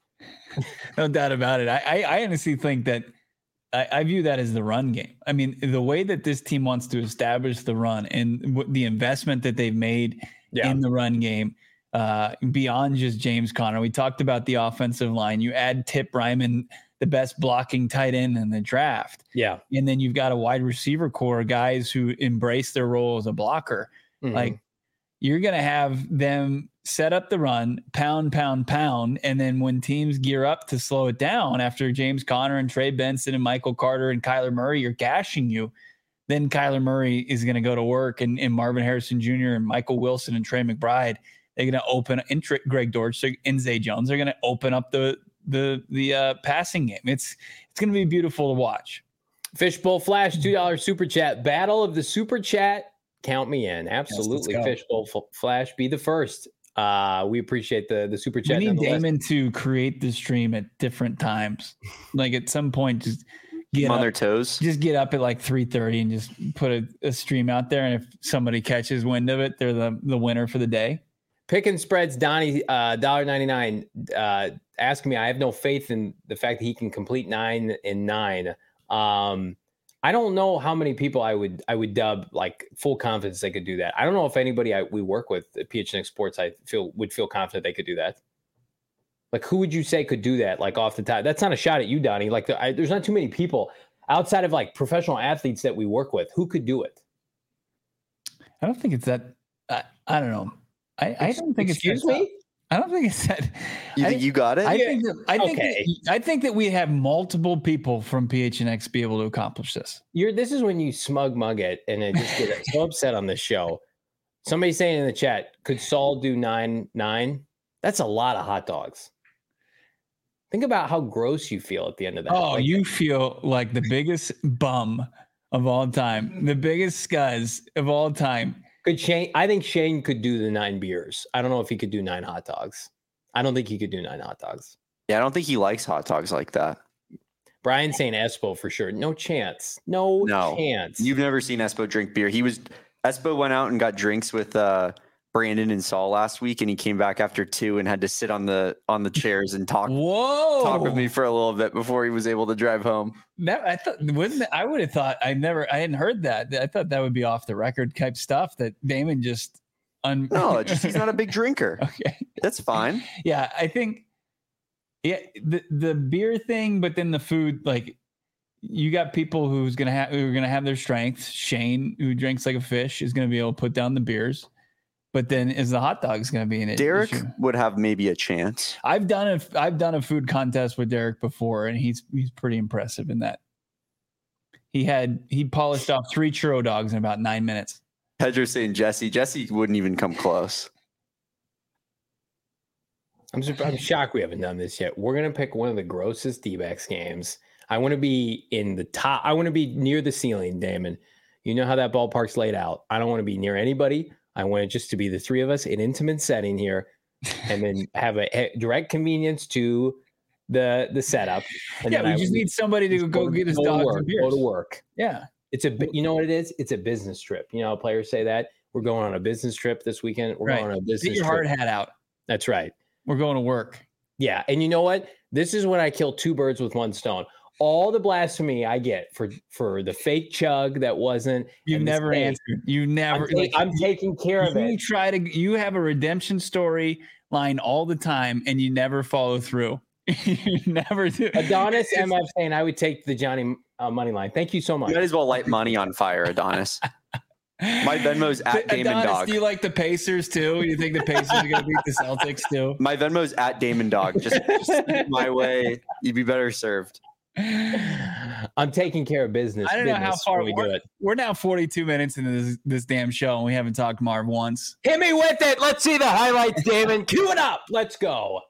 No doubt about it. I honestly think that I view that as the run game. I mean, the way that this team wants to establish the run and the investment that they've made in the run game, beyond just James Conner. We talked about the offensive line. You add Tip Ryman, the best blocking tight end in the draft. Yeah. And then you've got a wide receiver core, guys who embrace their role as a blocker. Mm-hmm. Like you're going to have them set up the run, pound. And then when teams gear up to slow it down after James Conner and Trey Benson and Michael Carter and Kyler Murray are gashing you, then Kyler Murray is going to go to work and Marvin Harrison Jr. and Michael Wilson and Trey McBride, they're going to open and Greg Dortch and Zay Jones. They're going to open up the passing game. It's going to be beautiful to watch. Fishbowl Flash, $2 super chat. Battle of the super chat. Count me in. Absolutely. Yes, Fishbowl Flash, be the first. We appreciate the super chat. We need Damon to create the stream at different times. Like at some point, just get on their toes. Just get up at like 3:30 and just put a stream out there. And if somebody catches wind of it, they're the winner for the day. Pick and spreads, Donnie, $1.99. Asking me, I have no faith in the fact that he can complete 9 and 9. I don't know how many people I would dub like full confidence they could do that. I don't know if anybody we work with at PHNX Sports would feel confident they could do that. Like, who would you say could do that? Like off the top, that's not a shot at you, Donnie. Like, there's not too many people outside of like professional athletes that we work with who could do it. I don't think it's that. I don't know. I don't think it's. Excuse me. I don't think it's that. You think you got it? I think that we have multiple people from PHNX be able to accomplish this. This is when you mug it and it just get so upset on this show. Somebody saying in the chat, could Saul do 9-9? That's a lot of hot dogs. Think about how gross you feel at the end of that. Oh, you feel like the biggest bum of all time, the biggest scuzz of all time. Could Shane? I think Shane could do the 9 beers. I don't know if he could do 9 hot dogs. I don't think he could do 9 hot dogs. Yeah, I don't think he likes hot dogs like that. Brian's saying Espo for sure. No chance. No chance. You've never seen Espo drink beer. Espo went out and got drinks with Brandon and Saul last week, and he came back after 2 and had to sit on the chairs and talk with me for a little bit before he was able to drive home. I would have thought I hadn't heard that. I thought that would be off the record type stuff that Damon just No, he's not a big drinker. Okay. That's fine. Yeah, I think the beer thing, but then the food, like you got people who are gonna have their strengths. Shane, who drinks like a fish, is gonna be able to put down the beers. But then is the hot dogs going to be an issue? Derek would have maybe a chance. I've done a food contest with Derek before, and he's pretty impressive in that. He polished off 3 churro dogs in about 9 minutes. Pedro's saying Jesse wouldn't even come close. I'm shocked we haven't done this yet. We're going to pick one of the grossest D-backs games. I want to be in the top. I want to be near the ceiling, Damon. You know how that ballpark's laid out. I don't want to be near anybody. I want it just to be the 3 of us in intimate setting here, and then have a direct convenience to the setup. And yeah, we just need somebody to go get his dogs and beers. Go to work. Yeah. You know what it is? It's a business trip. You know, players say that. We're going on a business trip this weekend. We're going on a business trip. Get your hard hat out. That's right. We're going to work. Yeah. And you know what? This is when I kill 2 birds with 1 stone. All the blasphemy I get for the fake chug that wasn't. You never answered. You never. I'm taking care of it. You have a redemption story line all the time, and you never follow through. You never do. Adonis MF saying I would take the Johnny money line. Thank you so much. You might as well light money on fire, Adonis. My Venmo's at Damon Adonis, Dog. Do you like the Pacers too? You think the Pacers are going to beat the Celtics too? My Venmo's at Damon Dog. Just my way. You'd be better served. I'm taking care of business. I don't know how far we do it. We're now 42 minutes into this damn show, and we haven't talked Marv once. Hit me with it. Let's see the highlights, Damon. Cue it up. Let's go.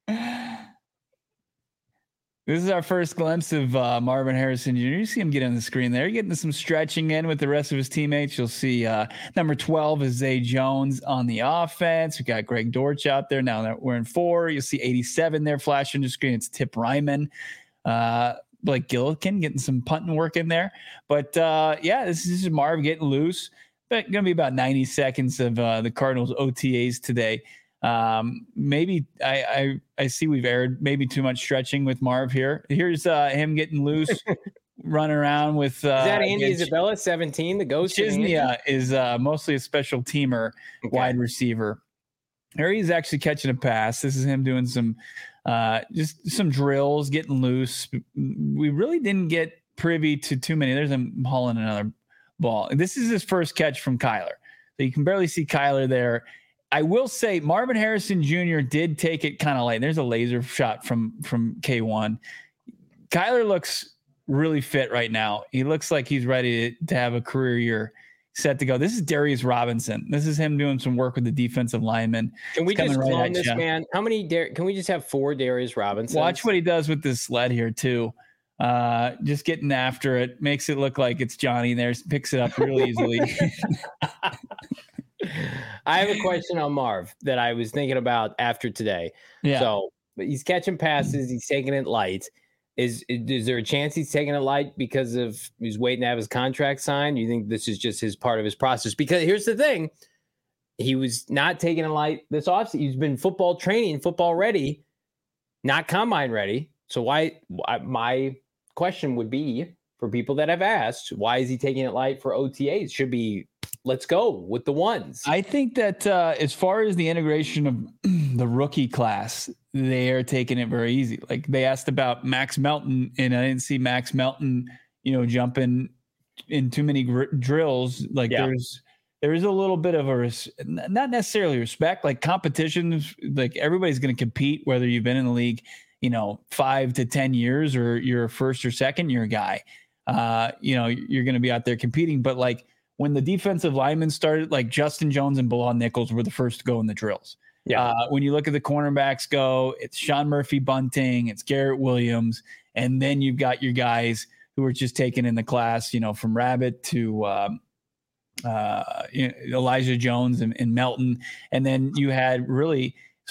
This is our first glimpse of Marvin Harrison Jr. You see him get on the screen there. You're getting some stretching in with the rest of his teammates. You'll see number 12 is Zay Jones on the offense. We got Greg Dortch out there. Now that we're in 4, you'll see 87 there flashing the screen. It's Tip Ryman. Blake Gillikin getting some punting work in there. But this is Marv getting loose. But going to be about 90 seconds of the Cardinals OTAs today. Maybe I see we've aired maybe too much stretching with Marv here. Here's him getting loose, running around with. Is that Andy Isabella, 17, the ghost? Chisnia is mostly a special teamer, wide receiver. Here he's actually catching a pass. This is him doing some just some drills, getting loose. We really didn't get privy to too many. There's him hauling another ball. This is his first catch from Kyler. So you can barely see Kyler there. I will say Marvin Harrison Jr. did take it kind of light. There's a laser shot from K1. Kyler looks really fit right now. He looks like he's ready to have a career year set to go. This is Darius Robinson. This is him doing some work with the defensive lineman. Can we just clone this man? How many? Can we just have 4 Darius Robinsons? Watch what he does with this sled here too. Just getting after it, makes it look like it's Johnny there. Picks it up real easily. I have a question on Marv that I was thinking about after today. Yeah. So he's catching passes. He's taking it light. Is there a chance he's taking it light because he's waiting to have his contract signed? You think this is just his part of his process? Because here's the thing. He was not taking it light this offseason. He's been football training, football ready, not combine ready. So my question would be for people that have asked, why is he taking it light for OTAs? Should be, let's go with the ones. I think that as far as the integration of the rookie class, they are taking it very easy. Like they asked about Max Melton, and I didn't see Max Melton, jumping in too many drills. Like there is a little bit of not necessarily respect, like competitions. Like everybody's going to compete, whether you've been in the league, 5 to 10 years or you're a first or second year guy. You're going to be out there competing. But like when the defensive linemen started, like Justin Jones and Bilal Nichols were the first to go in the drills. Yeah. When you look at the cornerbacks it's Sean Murphy Bunting, it's Garrett Williams, and then you've got your guys who are just taken in the class, from Rabbit to Elijah Jones and Melton. And then you had really, as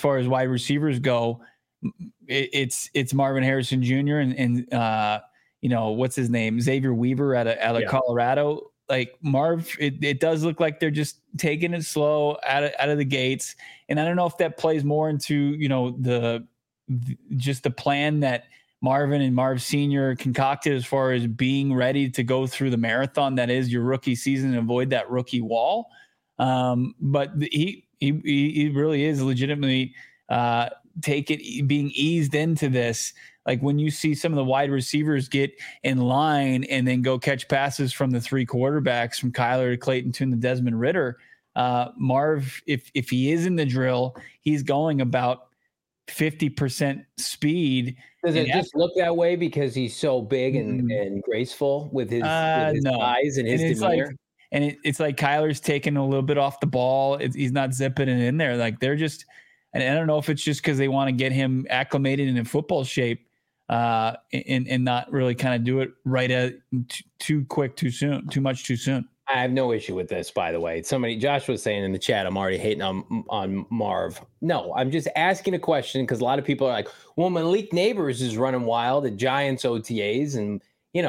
far as wide receivers go, it's Marvin Harrison Jr. and what's his name, Xavier Weaver out of Colorado. Like Marv, it does look like they're just taking it slow out of the gates, and I don't know if that plays more into just the plan that Marvin and Marv Sr. concocted as far as being ready to go through the marathon that is your rookie season and avoid that rookie wall. But he really is legitimately being eased into this. Like when you see some of the wide receivers get in line and then go catch passes from the three quarterbacks, from Kyler to Clayton Tune to Desmond Ridder, Marv, if he is in the drill, he's going about 50% speed. Does it just look that way because he's so big and graceful with his eyes and his demeanor? It's like Kyler's taking a little bit off the ball. He's not zipping it in there. Like they're just, and I don't know if it's just because they want to get him acclimated in football shape, and not really kind of do it right too quick, too soon, too much too soon. I have no issue with this, by the way. Josh was saying in the chat, I'm already hating on Marv. No, I'm just asking a question because a lot of people are like, well, Malik Neighbors is running wild at Giants OTAs. And,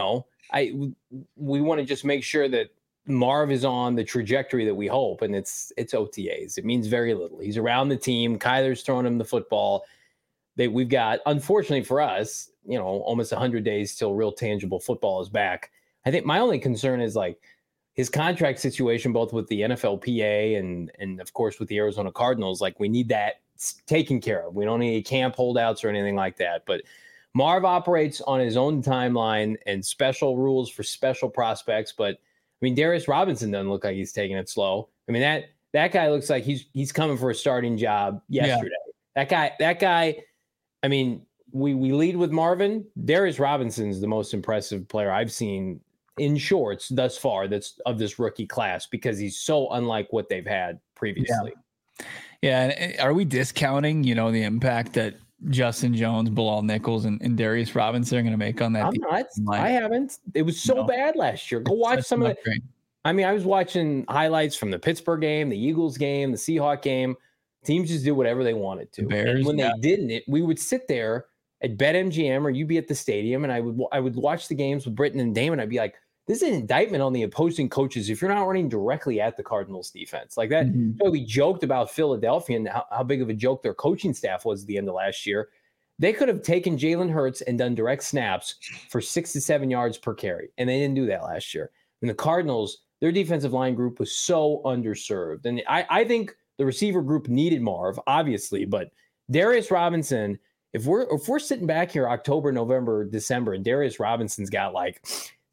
we want to just make sure that Marv is on the trajectory that we hope. And it's OTAs. It means very little. He's around the team. Kyler's throwing him the football. We've got, unfortunately for us, almost 100 days till real tangible football is back. I think my only concern is like, his contract situation, both with the NFLPA and of course with the Arizona Cardinals, like we need that taken care of. We don't need camp holdouts or anything like that. But Marv operates on his own timeline and special rules for special prospects. But I mean, Darius Robinson doesn't look like he's taking it slow. I mean, that guy looks like he's coming for a starting job yesterday. Yeah. That guy. I mean, we lead with Marvin. Darius Robinson's the most impressive player I've seen in shorts thus far that's of this rookie class because he's so unlike what they've had previously. Yeah. And are we discounting, the impact that Justin Jones, Bilal Nichols, and Darius Robinson are going to make on that? I'm not. I haven't. It was so bad last year. Go watch some of it. I mean, I was watching highlights from the Pittsburgh game, the Eagles game, the Seahawks game. Teams just did whatever they wanted to. Bears, and when they didn't, we would sit there at BetMGM or you'd be at the stadium, and I would watch the games with Britton and Damon. I'd be like, this is an indictment on the opposing coaches if you're not running directly at the Cardinals defense like that. Mm-hmm. So we joked about Philadelphia and how big of a joke their coaching staff was at the end of last year. They could have taken Jalen Hurts and done direct snaps for 6 to 7 yards per carry, and they didn't do that last year. And the Cardinals, their defensive line group was so underserved. And I think the receiver group needed Marv, obviously, but Darius Robinson, if we're sitting back here October, November, December, and Darius Robinson's got like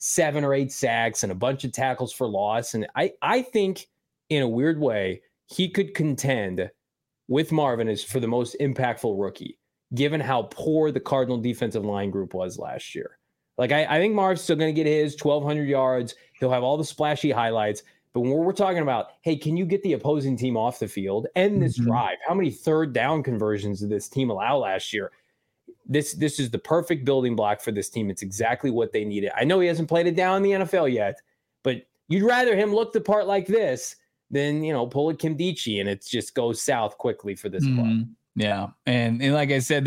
7 or 8 sacks and a bunch of tackles for loss. And I think in a weird way, he could contend with Marvin as for the most impactful rookie, given how poor the Cardinal defensive line group was last year. Like I think Marv's still going to get his 1,200 yards. He'll have all the splashy highlights. But when we're talking about, hey, can you get the opposing team off the field and this drive? How many third down conversions did this team allow last year? This is the perfect building block for this team. It's exactly what they needed. I know he hasn't played it down in the NFL yet, but you'd rather him look the part like this than, pull a Kimdichie and it just goes south quickly for this club. Yeah. And like I said,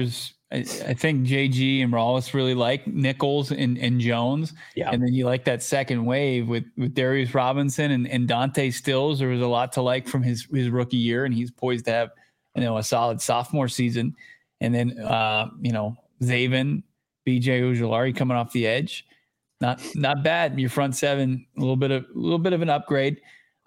I think JG and Rawls really like Nichols and Jones. Yeah. And then you like that second wave with Darius Robinson and Dante Stills. There was a lot to like from his rookie year, and he's poised to have, a solid sophomore season. And then, Zaven, BJ Ojulari coming off the edge. Not bad. Your front seven, a little bit of an upgrade.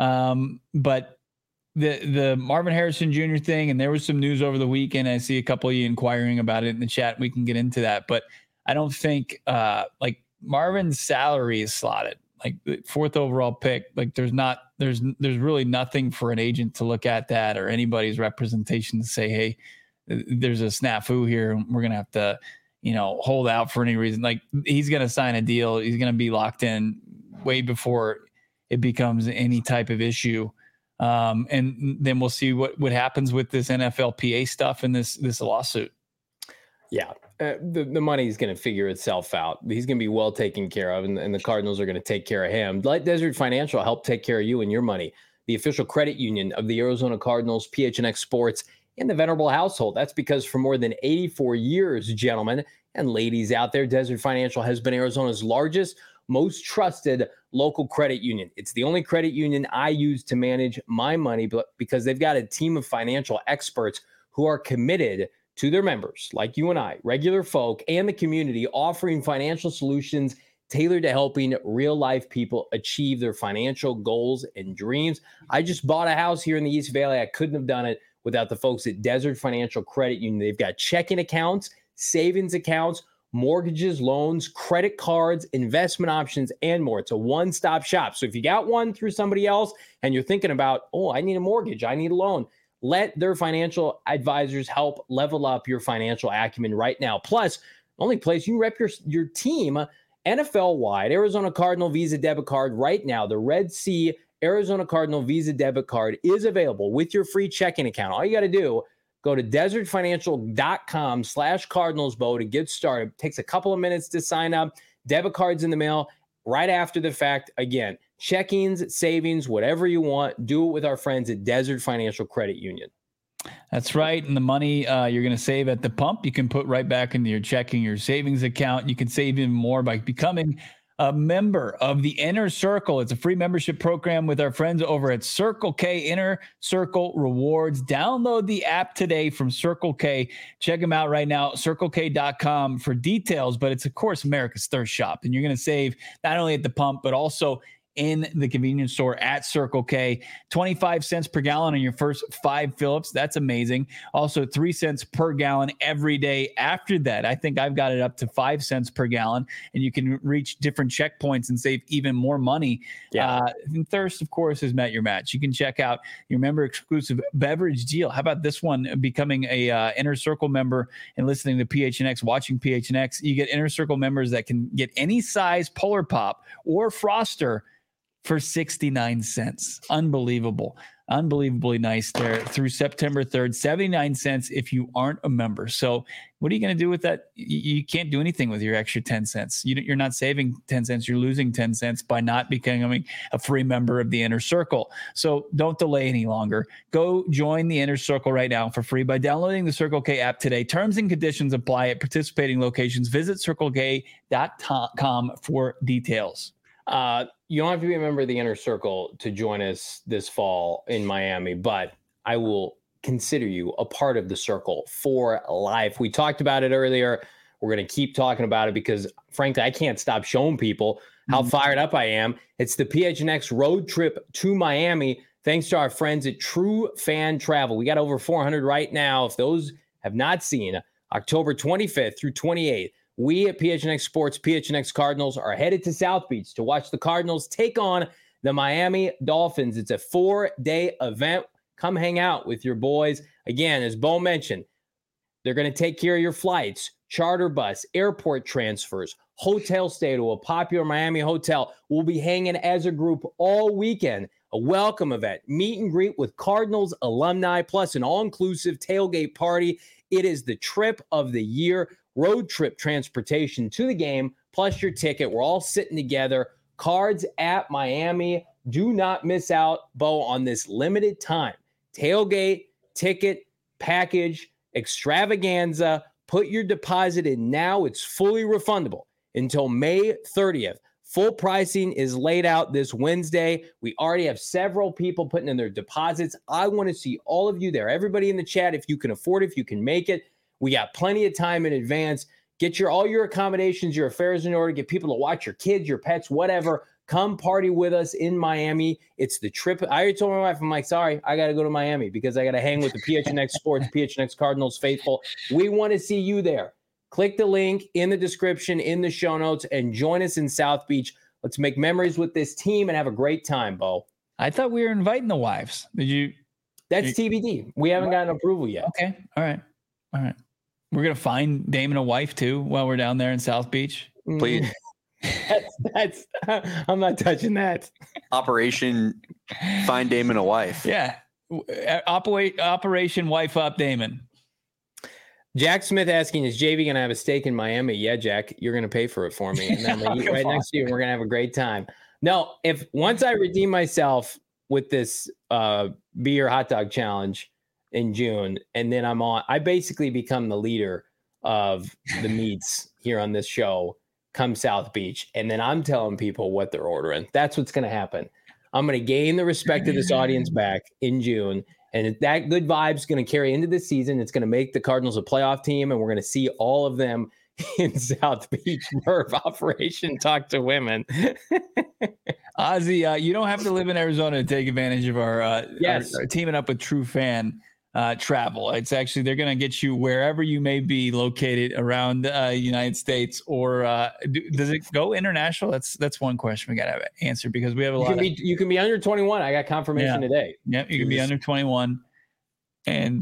But the Marvin Harrison Jr. thing, and there was some news over the weekend. I see a couple of you inquiring about it in the chat. We can get into that, but I don't think like Marvin's salary is slotted. Like the 4th overall pick, like there's really nothing for an agent to look at that or anybody's representation to say, hey, there's a snafu here. We're going to have to, hold out for any reason. Like he's going to sign a deal. He's going to be locked in way before it becomes any type of issue. And then we'll see what happens with this NFLPA stuff and this lawsuit. Yeah. The money is going to figure itself out. He's going to be well taken care of, and the Cardinals are going to take care of him. Let Desert Financial help take care of you and your money. The official credit union of the Arizona Cardinals, PHNX Sports, and the Venerable household. That's because for more than 84 years, gentlemen and ladies out there, Desert Financial has been Arizona's largest, most trusted local credit union. It's the only credit union I use to manage my money, but because they've got a team of financial experts who are committed to their members, like you and I, regular folk, and the community, offering financial solutions tailored to helping real-life people achieve their financial goals and dreams. I just bought a house here in the East Valley. I couldn't have done it without the folks at Desert Financial Credit Union. They've got checking accounts, savings accounts, mortgages, loans, credit cards, investment options, and more. It's a one-stop shop. So if you got one through somebody else and you're thinking about, oh, I need a mortgage, I need a loan, let their financial advisors help level up your financial acumen right now. Plus, the only place you rep your team NFL-wide, Arizona Cardinal Visa debit card right now. The Red Sea Arizona Cardinal Visa debit card is available with your free checking account. All you got to do, go to desertfinancial.com/CardinalsBo to get started. It takes a couple of minutes to sign up. Debit cards in the mail right after the fact. Again, checkings, savings, whatever you want, do it with our friends at Desert Financial Credit Union. That's right. And the money you're going to save at the pump, you can put right back into your checking, your savings account. You can save even more by becoming a member of the Inner Circle. It's a free membership program with our friends over at Circle K, Inner Circle Rewards. Download the app today from Circle K. Check them out right now, circlek.com for details. But it's, of course, America's thirst shop. And you're going to save not only at the pump, but also in the convenience store at Circle K. 25 cents per gallon on your first 5 fill-ups. That's amazing. Also 3 cents per gallon every day after that. I think I've got it up to 5 cents per gallon, and you can reach different checkpoints and save even more money. Yeah. And thirst, of course, has met your match. You can check out your member exclusive beverage deal. How about this one? Becoming a Inner Circle member and listening to PHNX, watching PHNX. You get Inner Circle members that can get any size Polar Pop or Froster for 69 cents. Unbelievable. Unbelievably nice there through September 3rd. 79 cents if you aren't a member. So what are you going to do with that? You can't do anything with your extra 10 cents. You're not saving 10 cents. You're losing 10 cents by not becoming a free member of the Inner Circle. So don't delay any longer. Go join the Inner Circle right now for free by downloading the Circle K app today. Terms and conditions apply at participating locations. Visit circlek.com for details. You don't have to be a member of the Inner Circle to join us this fall in Miami, but I will consider you a part of the circle for life. We talked about it earlier. We're going to keep talking about it because, frankly, I can't stop showing people how fired up I am. It's the PHNX road trip to Miami, thanks to our friends at True Fan Travel. We got over 400 right now. If those have not seen, October 25th through 28th, we at PHNX Sports, PHNX Cardinals, are headed to South Beach to watch the Cardinals take on the Miami Dolphins. It's a 4-day event. Come hang out with your boys. Again, as Bo mentioned, they're going to take care of your flights, charter bus, airport transfers, hotel stay to a popular Miami hotel. We'll be hanging as a group all weekend. A welcome event, meet and greet with Cardinals alumni, plus an all-inclusive tailgate party. It is the trip of the year. Road trip transportation to the game, plus your ticket. We're all sitting together. Cards at Miami. Do not miss out, Bo, on this limited time tailgate, ticket, package, extravaganza. Put your deposit in now. It's fully refundable until May 30th. Full pricing is laid out this Wednesday. We already have several people putting in their deposits. I want to see all of you there. Everybody in the chat, if you can afford it, if you can make it. We got plenty of time in advance. Get all your accommodations, your affairs in order. Get people to watch your kids, your pets, whatever. Come party with us in Miami. It's the trip. I already told my wife, I'm like, sorry, I got to go to Miami because I got to hang with the PHNX Sports, PHNX Cardinals faithful. We want to see you there. Click the link in the description, in the show notes, and join us in South Beach. Let's make memories with this team and have a great time, Bo. I thought we were inviting the wives. That's TBD. We haven't gotten approval yet. Okay. All right. We're going to find Damon a wife, too, while we're down there in South Beach. Please. That's I'm not touching that. Operation Find Damon a Wife. Yeah. Operation Wife Up Damon. Jack Smith asking, is JV going to have a stake in Miami? Yeah, Jack, you're going to pay for it for me. And then we'll eat right next to you, and we're going to have a great time. No, once I redeem myself with this beer hot dog challenge, in June, and then I basically become the leader of the meets here on this show come South Beach, and then I'm telling people what they're ordering. That's what's going to happen. I'm going to gain the respect of this audience back in June, and that good vibe's going to carry into the season. It's going to make the Cardinals a playoff team, and we're going to see all of them in South Beach. Nerve Operation Talk to Women. Ozzy, you don't have to live in Arizona to take advantage of our teaming up with True Fan travel. It's actually, they're going to get you wherever you may be located around the United States, or does it go international? That's one question we got to answer, because we have you can be under 21. I got confirmation today. Yeah, you can be under 21. And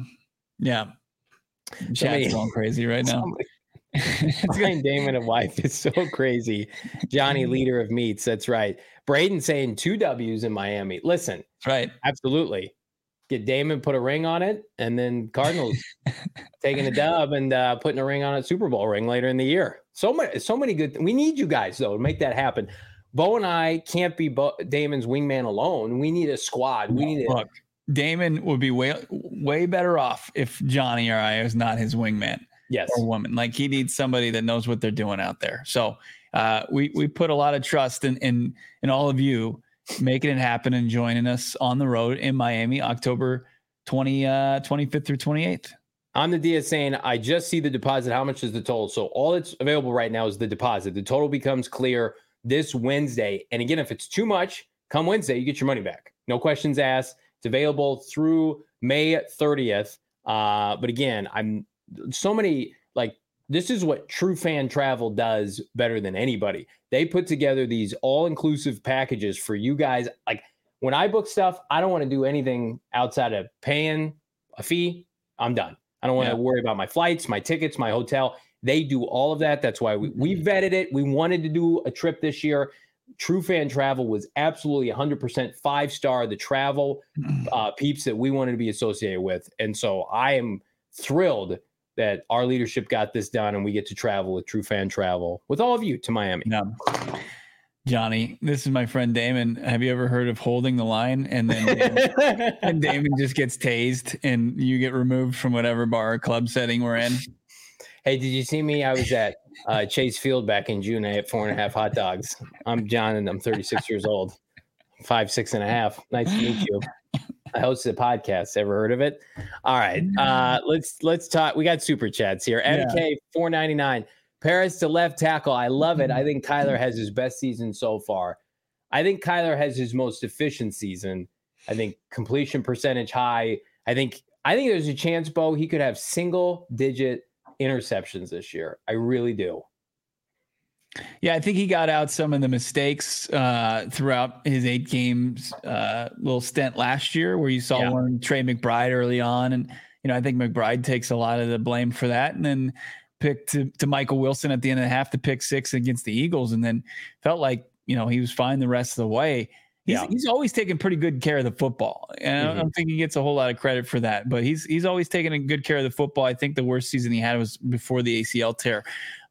chat's going crazy right now. Saying Damon and wife is so crazy. Johnny, leader of meets. That's right. Braden saying 2 W's in Miami. Listen, that's right. Absolutely. Get Damon, put a ring on it, and then Cardinals taking a dub and putting a ring on a Super Bowl ring later in the year. So many good. We need you guys though to make that happen. Bo and I can't be Damon's wingman alone. We need a squad. We need Look, Damon would be way better off if Johnny or I is not his wingman. Yes. Or woman. Like, he needs somebody that knows what they're doing out there. So we put a lot of trust in all of you making it happen and joining us on the road in Miami, October 25th through 28th. I'm the Dia saying, I just see the deposit. How much is the total? So all that's available right now is the deposit. The total becomes clear this Wednesday. And again, if it's too much, come Wednesday, you get your money back. No questions asked. It's available through May 30th. But again, this is what True Fan Travel does better than anybody. They put together these all-inclusive packages for you guys. Like, when I book stuff, I don't want to do anything outside of paying a fee. I'm done. I don't want to worry about my flights, my tickets, my hotel. They do all of that. That's why we vetted it. We wanted to do a trip this year. True Fan Travel was absolutely 100% 5-star, the travel peeps that we wanted to be associated with. And so I am thrilled that our leadership got this done, and we get to travel with True Fan Travel with all of you to Miami. No. Johnny, this is my friend Damon. Have you ever heard of holding the line and then Damon just gets tased and you get removed from whatever bar or club setting we're in? Hey, did you see me? I was at Chase Field back in June. I ate 4.5 hot dogs. I'm John, and I'm 36 years old. 5'6.5". Nice to meet you. I hosted a podcast. Ever heard of it? All right. Let's talk. We got super chats here. MK 499. Paris to left tackle. I love it. I think Kyler has his best season so far. I think Kyler has his most efficient season. I think completion percentage high. I think there's a chance, Bo, he could have single-digit interceptions this year. I really do. Yeah, I think he got out some of the mistakes throughout his 8 games little stint last year, where you saw one Trey McBride early on. And, I think McBride takes a lot of the blame for that. And then picked to Michael Wilson at the end of the half to pick 6 against the Eagles, and then felt like, he was fine the rest of the way. He's always taken pretty good care of the football. And I don't think he gets a whole lot of credit for that, but he's always taken a good care of the football. I think the worst season he had was before the ACL tear.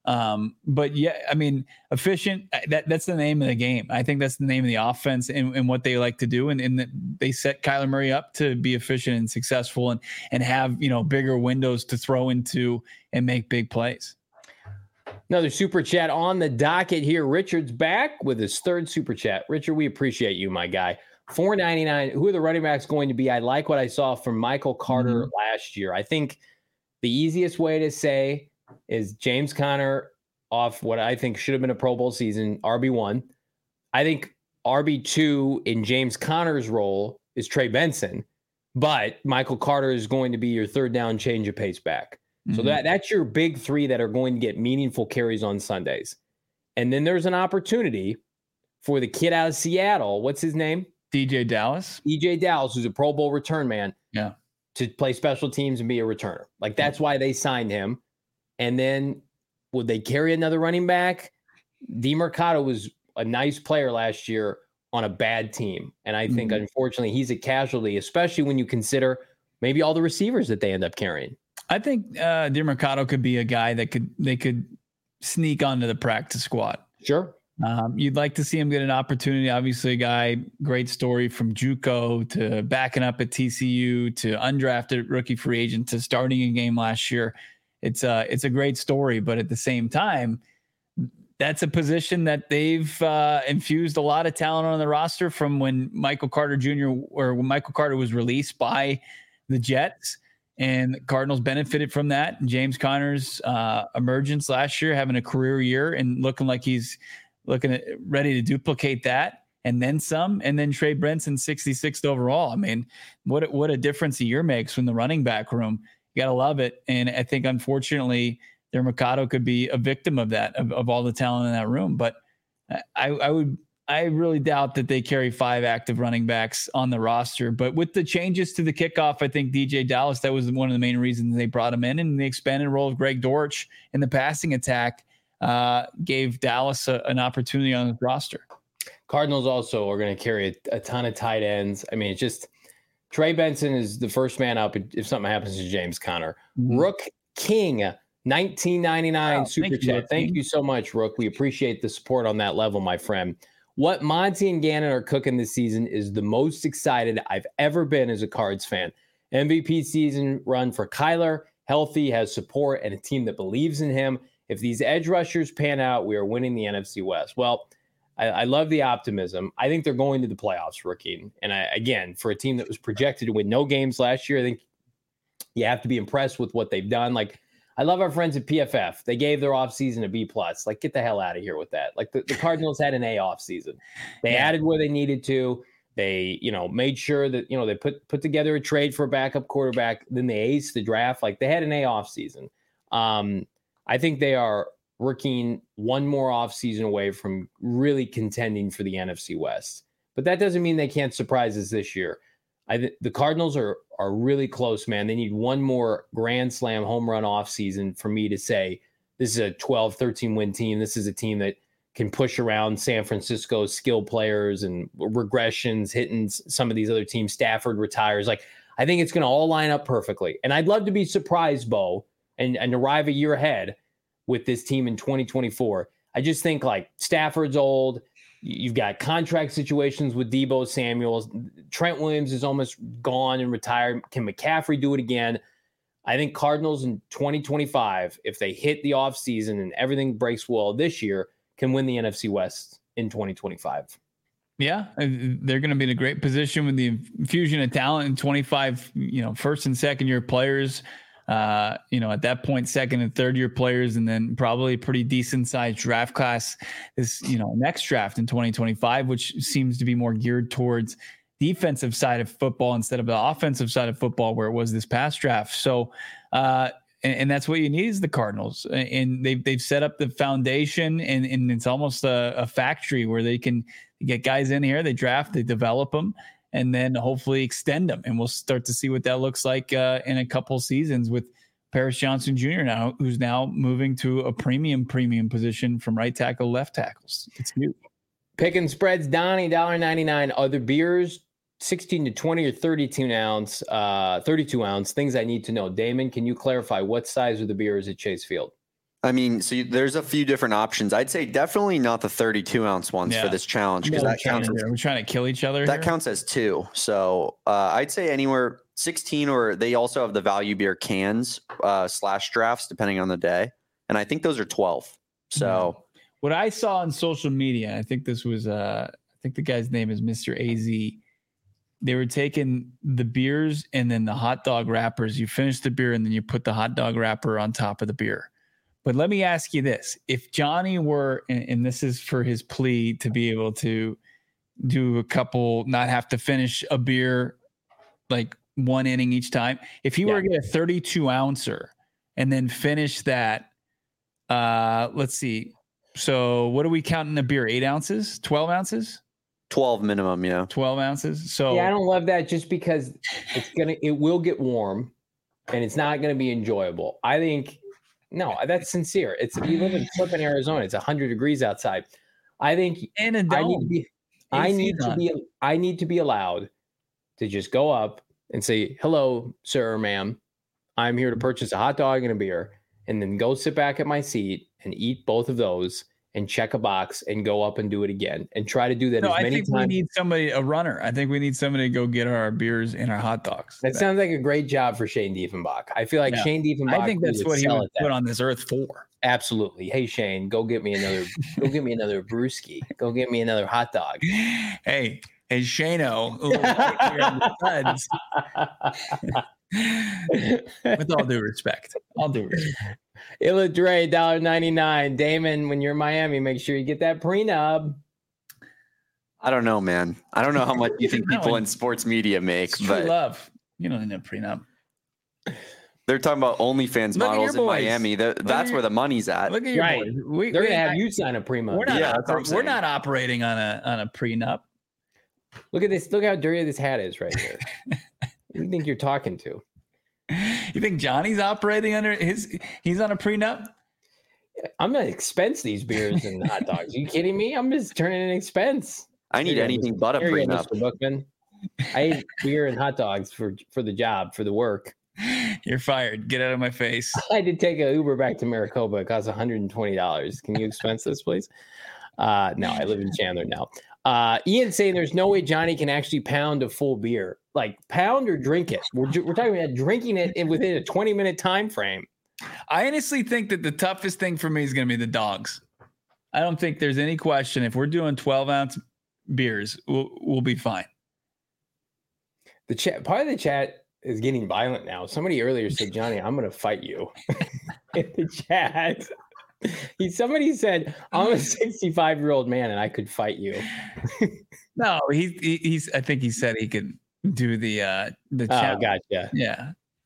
But yeah, I mean, efficient, that's the name of the game. I think that's the name of the offense and what they like to do. And they set Kyler Murray up to be efficient and successful and have, bigger windows to throw into and make big plays. Another super chat on the docket here. Richard's back with his 3rd super chat. Richard, we appreciate you, my guy. 499. Who are the running backs going to be? I like what I saw from Michael Carter last year. I think the easiest way to say is James Conner off what I think should have been a Pro Bowl season, RB1. I think RB2 in James Conner's role is Trey Benson, but Michael Carter is going to be your 3rd down change of pace back. So that's your big 3 that are going to get meaningful carries on Sundays. And then there's an opportunity for the kid out of Seattle. What's his name? DJ Dallas. DJ Dallas, who's a Pro Bowl return man. Yeah. To play special teams and be a returner. Like, that's why they signed him. And then would they carry another running back? DeMercado was a nice player last year on a bad team. And I think, unfortunately, he's a casualty, especially when you consider maybe all the receivers that they end up carrying. I think DeMercado could be a guy that they could sneak onto the practice squad. Sure. You'd like to see him get an opportunity. Obviously, a guy, great story from JUCO to backing up at TCU to undrafted rookie free agent to starting a game last year. It's a great story, but at the same time, that's a position that they've infused a lot of talent on the roster from when Michael Carter Jr. or when Michael Carter was released by the Jets, and the Cardinals benefited from that. And James Conner's emergence last year, having a career year and looking like he's ready to duplicate that and then some. And then Trey Benson, 66th overall. I mean, what a difference a year makes from the running back room. You got to love it. And I think, unfortunately, their Mercado could be a victim of that, of all the talent in that room. But I really doubt that they carry 5 active running backs on the roster. But with the changes to the kickoff, I think DJ Dallas, that was one of the main reasons they brought him in. And the expanded role of Greg Dortch in the passing attack gave Dallas an opportunity on the roster. Cardinals also are going to carry a ton of tight ends. I mean, it's just Trey Benson is the first man up if something happens to James Conner. Mm-hmm. Rook King, 1999 super chat. Thank you so much, Rook. We appreciate the support on that level, my friend. What Monty and Gannon are cooking this season is the most excited I've ever been as a Cards fan. MVP season run for Kyler, healthy, has support, and a team that believes in him. If these edge rushers pan out, we are winning the NFC West. Well, I love the optimism. I think they're going to the playoffs, Rookie. And again, for a team that was projected to win no games last year, I think you have to be impressed with what they've done. Like, I love our friends at PFF. They gave their offseason a B+. Like, get the hell out of here with that. Like, the Cardinals had an A offseason. They added where they needed to. They, made sure that, they put together a trade for a backup quarterback. Then they aced the draft. Like, they had an A offseason. I think they are working one more offseason away from really contending for the NFC West. But that doesn't mean they can't surprise us this year. The Cardinals are really close, man. They need one more grand slam home run offseason for me to say this is a 12, 13-win team. This is a team that can push around San Francisco's skill players and regressions, hitting some of these other teams. Stafford retires. Like, I think it's going to all line up perfectly. And I'd love to be surprised, Bo, and arrive a year ahead with this team in 2024. I just think, like, Stafford's old. You've got contract situations with Deebo Samuel. Trent Williams is almost gone and retired. Can McCaffrey do it again? I think Cardinals in 2025, if they hit the offseason and everything breaks well this year, can win the NFC West in 2025. Yeah, they're going to be in a great position with the infusion of talent and 25, first and second year players. At that point, second and third year players, and then probably a pretty decent sized draft class this, next draft in 2025, which seems to be more geared towards defensive side of football instead of the offensive side of football where it was this past draft. So, and that's what you need is the Cardinals, and they've set up the foundation, and it's almost a factory where they can get guys in here, they draft, they develop them, and then hopefully extend them. And we'll start to see what that looks like in a couple seasons with Paris Johnson Jr. now, who's now moving to a premium position from right tackle, left tackles. It's huge. Picking spreads, Donnie, $1.99. Other beers, 16 to 20 or 32 ounce, things I need to know. Damon, can you clarify what size are the beers at Chase Field? I mean, so there's a few different options. I'd say definitely not the 32 ounce ones for this challenge, because that counts. We're trying to kill each other. That counts as 2. So I'd say anywhere 16, or they also have the value beer cans / drafts depending on the day, and I think those are 12. So what I saw on social media, I think this was I think the guy's name is Mr. AZ. They were taking the beers and then the hot dog wrappers. You finish the beer and then you put the hot dog wrapper on top of the beer. But let me ask you this. If Johnny were, and this is for his plea to be able to do a couple, not have to finish a beer like one inning each time. If he were to get a 32 ouncer and then finish that, let's see. So what are we counting the beer? 8 ounces, 12 ounces? 12 minimum. Yeah. 12 ounces. So I don't love that just because it will get warm and it's not going to be enjoyable. I think, no, that's sincere. You live in flipping Arizona. It's 100 degrees outside. I think I need to be allowed to just go up and say, hello, sir or ma'am. I'm here to purchase a hot dog and a beer, and then go sit back at my seat and eat both of those and check a box and go up and do it again and try to do that No, as many I think times. we need somebody, a runner. I think we need somebody to go get our beers and our hot dogs. That sounds like a great job for Shane Diefenbach. I feel like Shane Diefenbach. I think that's what he was put on this earth for. Absolutely. Hey Shane, go get me another brewski. Go get me another hot dog. Hey Shano. With all due respect. Illa Dre, $1.99. Damon, when you're in Miami, make sure you get that prenup. I don't know, man. I don't know how much you think people in sports media make, but love. You don't need a prenup. They're talking about OnlyFans models in Miami. That's where the money's at. Look at your boys. They're gonna have you sign a prenup. We're not operating on a prenup. Look at this. Look how dirty this hat is right here. Who do you think you're talking to? You think Johnny's operating under he's on a prenup? I'm gonna expense these beers and hot dogs. Are you kidding me? I'm just turning an expense. I need anything but a prenup. Mr. Bookman. I ate beer and hot dogs for the job, for the work. You're fired. Get out of my face. I did take an Uber back to Maricopa. It cost $120. Can you expense this, please? No, I live in Chandler now. Ian saying there's no way Johnny can actually pound a full beer. Like pound or drink it. We're talking about drinking it within a 20-minute time frame. I honestly think that the toughest thing for me is going to be the dogs. I don't think there's any question. If we're doing 12-ounce beers, we'll be fine. The chat, part of the chat is getting violent now. Somebody earlier said, Johnny, I'm going to fight you in the chat. Somebody said, I'm a 65-year-old man and I could fight you. No, he's. I think he said he could do the chat. Oh, gotcha. Yeah.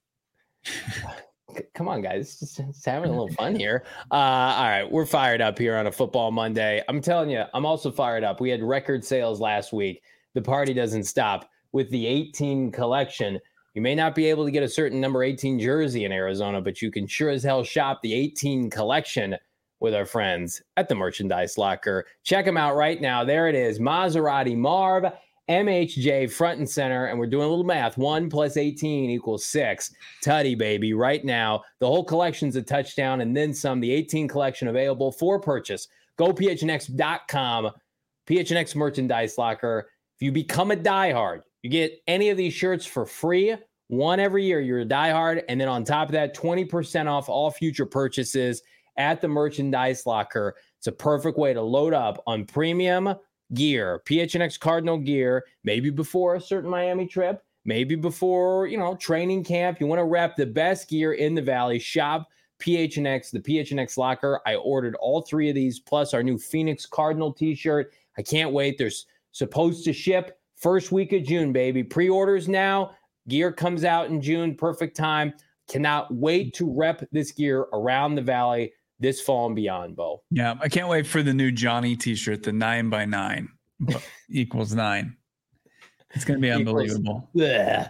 Come on, guys. Just having a little fun here. All right. We're fired up here on a football Monday. I'm telling you, I'm also fired up. We had record sales last week. The party doesn't stop with the 18 collection. You may not be able to get a certain number 18 jersey in Arizona, but you can sure as hell shop the 18 collection with our friends at the Merchandise Locker. Check them out right now. There it is. Maserati Marv, MHJ front and center. And we're doing a little math. 1 + 18 = 6. Tutty, baby. Right now, the whole collection's a touchdown and then some. The 18 collection available for purchase. Go phnx.com. PHNX Merchandise Locker. If you become a diehard, you get any of these shirts for free. One every year. You're a diehard. And then on top of that, 20% off all future purchases at the Merchandise Locker. It's a perfect way to load up on premium gear, PHNX Cardinal gear, maybe before a certain Miami trip, maybe before, training camp. You want to rep the best gear in the Valley. Shop PHNX, the PHNX Locker. I ordered all 3 of these, plus our new Phoenix Cardinal t-shirt. I can't wait. There's supposed to ship first week of June, baby. Pre-orders now. Gear comes out in June. Perfect time. Cannot wait to rep this gear around the Valley this fall and beyond, Bo. Yeah, I can't wait for the new Johnny t-shirt, the 9x9 = 9. It's going to be unbelievable. That's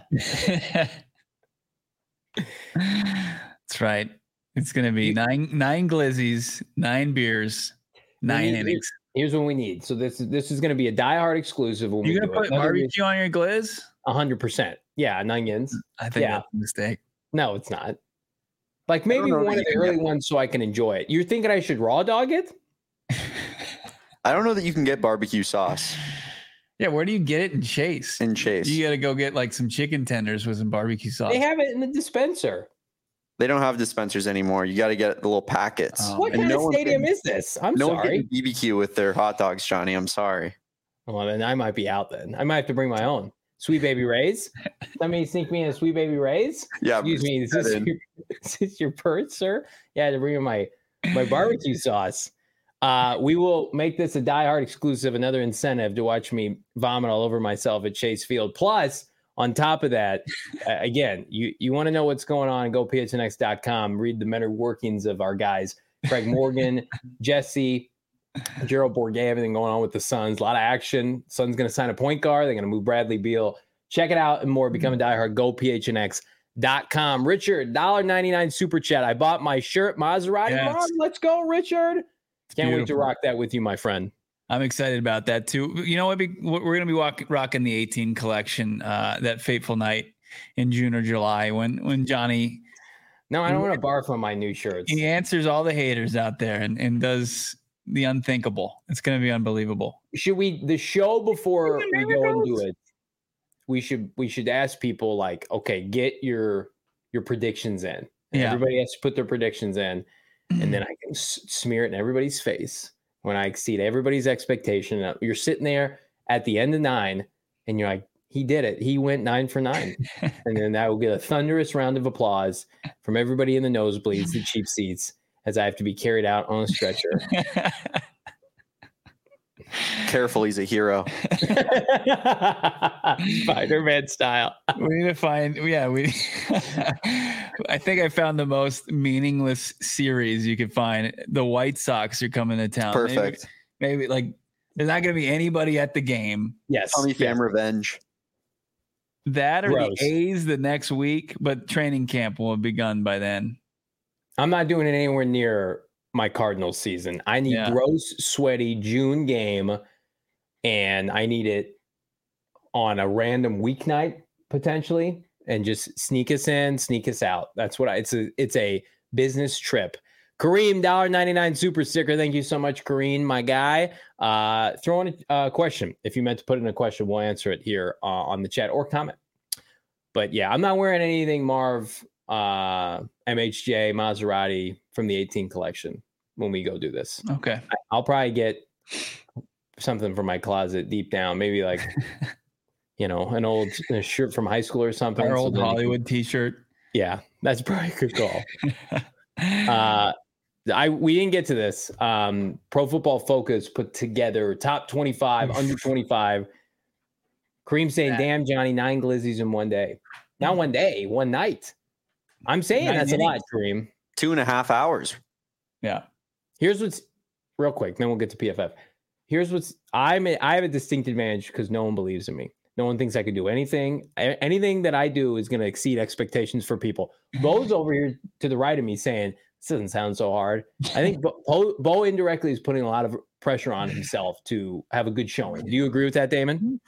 right. It's going to be nine glizzies, 9 beers, 9 innings. Here's what we need. So this is going to be a diehard exclusive. When You're going to put barbecue on your glizz? 100%. Yeah, and onions. I think that's a mistake. No, it's not. Like maybe one of the early ones so I can enjoy it. You're thinking I should raw dog it? I don't know that you can get barbecue sauce. Yeah, where do you get it in Chase? In Chase. You got to go get like some chicken tenders with some barbecue sauce. They have it in the dispenser. They don't have dispensers anymore. You got to get the little packets. What kind of stadium is this? I'm sorry. No one getting BBQ with their hot dogs, Johnny. I'm sorry. Well, then I might be out then. I might have to bring my own. Sweet Baby Ray's. Somebody sneak me in a Sweet Baby Ray's? Yeah. Excuse me. Is this your purse, sir? Yeah, I had to bring in my barbecue sauce. We will make this a diehard exclusive, another incentive to watch me vomit all over myself at Chase Field. Plus, on top of that, again, you want to know what's going on, go phnx.com, read the mental workings of our guys, Craig Morgan, Jesse, Gerald Bourguet, everything going on with the Suns. A lot of action. Suns going to sign a point guard. They're going to move Bradley Beal. Check it out and more. Become a diehard. Go phnx.com. Richard, $1.99 super chat. I bought my shirt. Maserati. Yes. Let's go, Richard. Can't wait to rock that with you, my friend. I'm excited about that too. You know what? We're going to be rocking the 18 collection that fateful night in June or July when Johnny. No, I don't want to barf on my new shirts. He answers all the haters out there and does the unthinkable. It's going to be unbelievable. Should we, the show before we go into it, we should ask people like, okay, get your predictions in. Everybody has to put their predictions in, and then I can smear it in everybody's face when I exceed everybody's expectation. You're sitting there at the end of 9, and you're like, he did it. He went 9 for 9. And then that will get a thunderous round of applause from everybody in the nosebleeds, the cheap seats, as I have to be carried out on a stretcher. Careful, he's a hero. Spider-Man style. We need to find, I think I found the most meaningless series you could find. The White Sox are coming to town. Perfect. Maybe like there's not going to be anybody at the game. Yes. Tommy Pham revenge. That or Gross. the A's the next week, but training camp will have begun by then. I'm not doing it anywhere near my Cardinals season. I need gross, sweaty June game, and I need it on a random weeknight potentially, and just sneak us in, sneak us out. That's what it's a business trip. Kareem, $1.99 super sticker. Thank you so much, Kareem, my guy. Throw in a question. If you meant to put in a question, we'll answer it here on the chat or comment. But yeah, I'm not wearing anything Marv MHJ Maserati from the 18 collection when we go do this. Okay. I'll probably get something from my closet deep down, maybe like an old shirt from high school or something. Our old Hollywood t-shirt. Yeah, that's probably a good call. We didn't get to this. Pro Football Focus put together top 25, under 25. Kareem saying, damn, Johnny, 9 glizzies in one day. Not one day, one night. I'm saying that's a lot, Kareem. 2.5 hours. Yeah. Here's what's real quick, then we'll get to PFF. Here's what's I have a distinct advantage because no one believes in me. No one thinks I can do anything. Anything that I do is going to exceed expectations for people. Bo's over here to the right of me saying, this doesn't sound so hard. I think Bo indirectly is putting a lot of pressure on himself to have a good showing. Do you agree with that, Damon?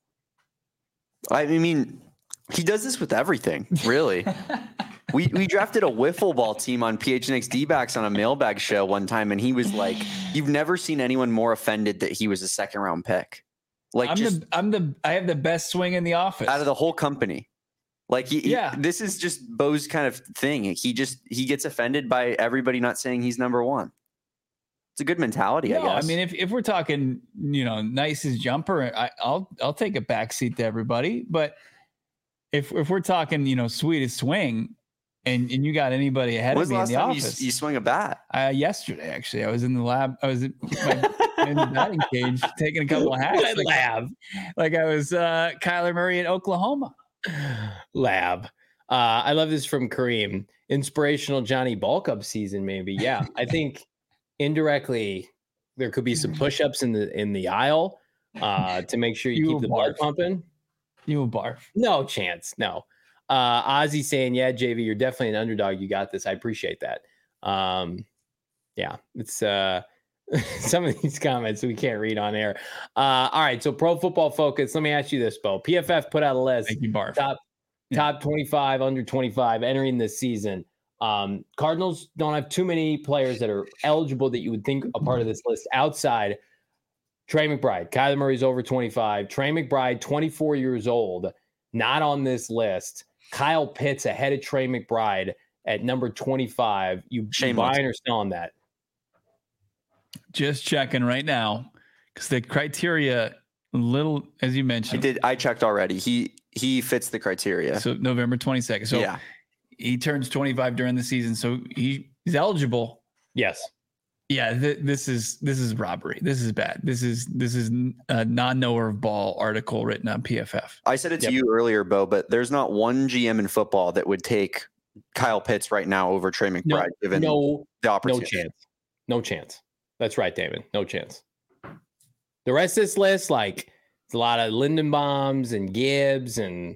I mean, he does this with everything, really. We drafted a wiffle ball team on PHNX D-backs on a mailbag show one time, and he was like, "You've never seen anyone more offended that he was a second-round pick." Like, I have the best swing in the office out of the whole company. Like, this is just Bo's kind of thing. He gets offended by everybody not saying he's number one. It's a good mentality, I guess. I mean, if we're talking, nicest jumper, I'll take a backseat to everybody. But if we're talking, sweetest swing, and you got anybody ahead of me in the office, you swing a bat? Yesterday, actually, I was in the lab. I was in the batting cage taking a couple of hacks. Like I was Kyler Murray in Oklahoma. Lab. I love this from Kareem. Inspirational Johnny Ball Cup season, maybe. Yeah, I think indirectly there could be some push-ups in the aisle to make sure you keep the blood pumping. You will barf. No chance. No. Ozzy saying, yeah, JV, you're definitely an underdog. You got this. I appreciate that. Yeah, it's some of these comments we can't read on air. All right, so Pro Football Focus. Let me ask you this, Bo. PFF put out a list. Thank you, Barf. Top 25, under 25 entering this season. Cardinals don't have too many players that are eligible that you would think a part of this list outside Trey McBride. Kyler Murray's over 25. Trey McBride, 24 years old, not on this list. Kyle Pitts ahead of Trey McBride at number 25. You buying or selling that? Just checking right now because the criteria, little as you mentioned. I checked already. He fits the criteria. So November 22nd. So yeah. He turns 25 during the season, so he's eligible. Yes. Yeah. This is robbery. This is bad. This is a non-knower of ball article written on PFF. I said it to you earlier, Bo, but there's not one GM in football that would take Kyle Pitts right now over Trey McBride, given the opportunity. No chance. That's right, Damon. No chance. The rest of this list, like, it's a lot of Lindenbaums and Gibbs and,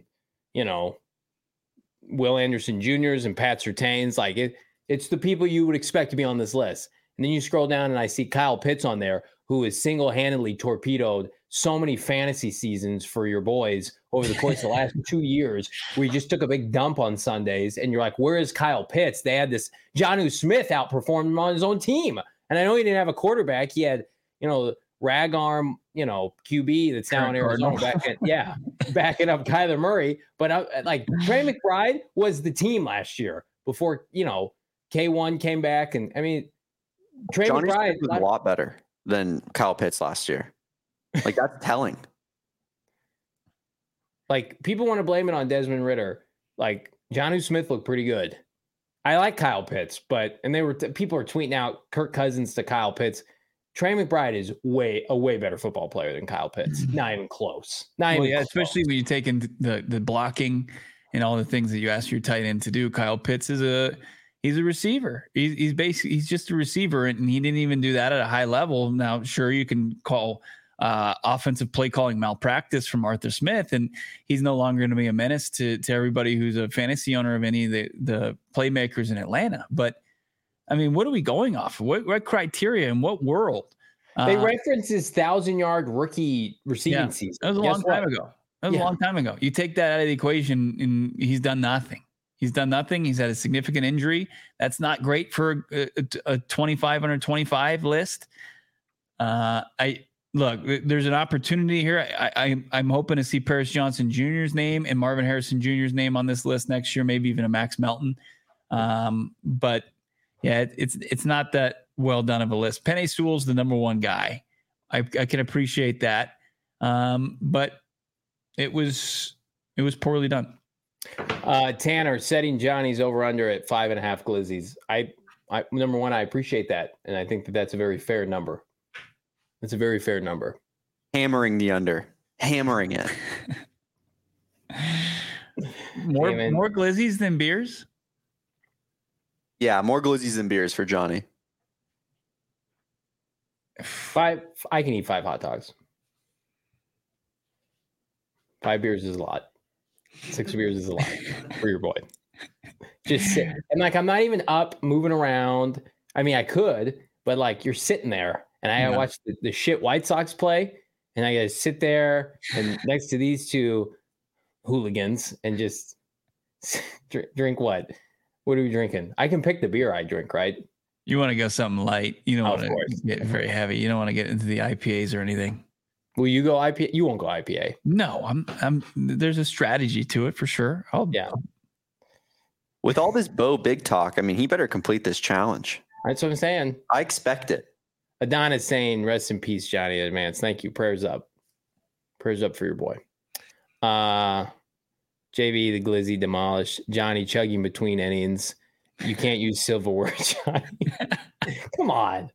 Will Anderson Jr.'s and Pat Surtains. Like, it's the people you would expect to be on this list. And then you scroll down and I see Kyle Pitts on there, who has single-handedly torpedoed so many fantasy seasons for your boys over the course of the last 2 years, where you just took a big dump on Sundays. And you're like, where is Kyle Pitts? They had this Jonnu Smith outperformed him on his own team. And I know he didn't have a quarterback. He had, rag arm, QB that's now in Arizona backing up Kyler Murray. But Trey McBride was the team last year before, K1 came back. And I mean, Trey McBride was a lot better than Kyle Pitts last year. Like, that's telling. Like, people want to blame it on Desmond Ridder. Like, Jonnu Smith looked pretty good. I like Kyle Pitts, people are tweeting out Kirk Cousins to Kyle Pitts. Trey McBride is a way better football player than Kyle Pitts. Not even close. Close. Especially when you take in the blocking and all the things that you ask your tight end to do. Kyle Pitts he's a receiver. He's just a receiver, and he didn't even do that at a high level. Now, sure, you can call offensive play calling malpractice from Arthur Smith, and he's no longer going to be a menace to everybody who's a fantasy owner of any of the playmakers in Atlanta. But I mean, what are we going off? What criteria and what world? They reference his 1,000-yard rookie receiving season. That was a long time ago. A long time ago. You take that out of the equation, and he's done nothing. He's had a significant injury. That's not great for a 25 under 25 list. Look, there's an opportunity here. I'm hoping to see Paris Johnson Jr.'s name and Marvin Harrison Jr.'s name on this list next year, maybe even a Max Melton. But yeah, it's not that well done of a list. Penei Sewell's the number one guy. I can appreciate that, but it was poorly done. Tanner setting Johnny's over under at 5.5 glizzies. I number one, I appreciate that, and I think that's a very fair number. It's a very fair number. Hammering the under. Hammering it. More glizzies than beers? Yeah, more glizzies than beers for Johnny. 5. I can eat 5 hot dogs. 5 beers is a lot. 6 beers is a lot for your boy. Just sit. And I'm not even up moving around. I mean, I could, but you're sitting there. And I gotta watch the shit White Sox play, and I gotta sit there and next to these two hooligans and just drink what? What are we drinking? I can pick the beer I drink, right? You want to go something light. You don't want to get very heavy. You don't want to get into the IPAs or anything. Will you go IPA? You won't go IPA. No, I'm. There's a strategy to it for sure. With all this Bo Big talk, I mean, he better complete this challenge. That's what I'm saying. I expect it. Adonis saying, rest in peace, Johnny in advance. Thank you. Prayers up. Prayers up for your boy. JV, the glizzy demolished. Johnny chugging between innings. You can't use silverware, Johnny. Come on.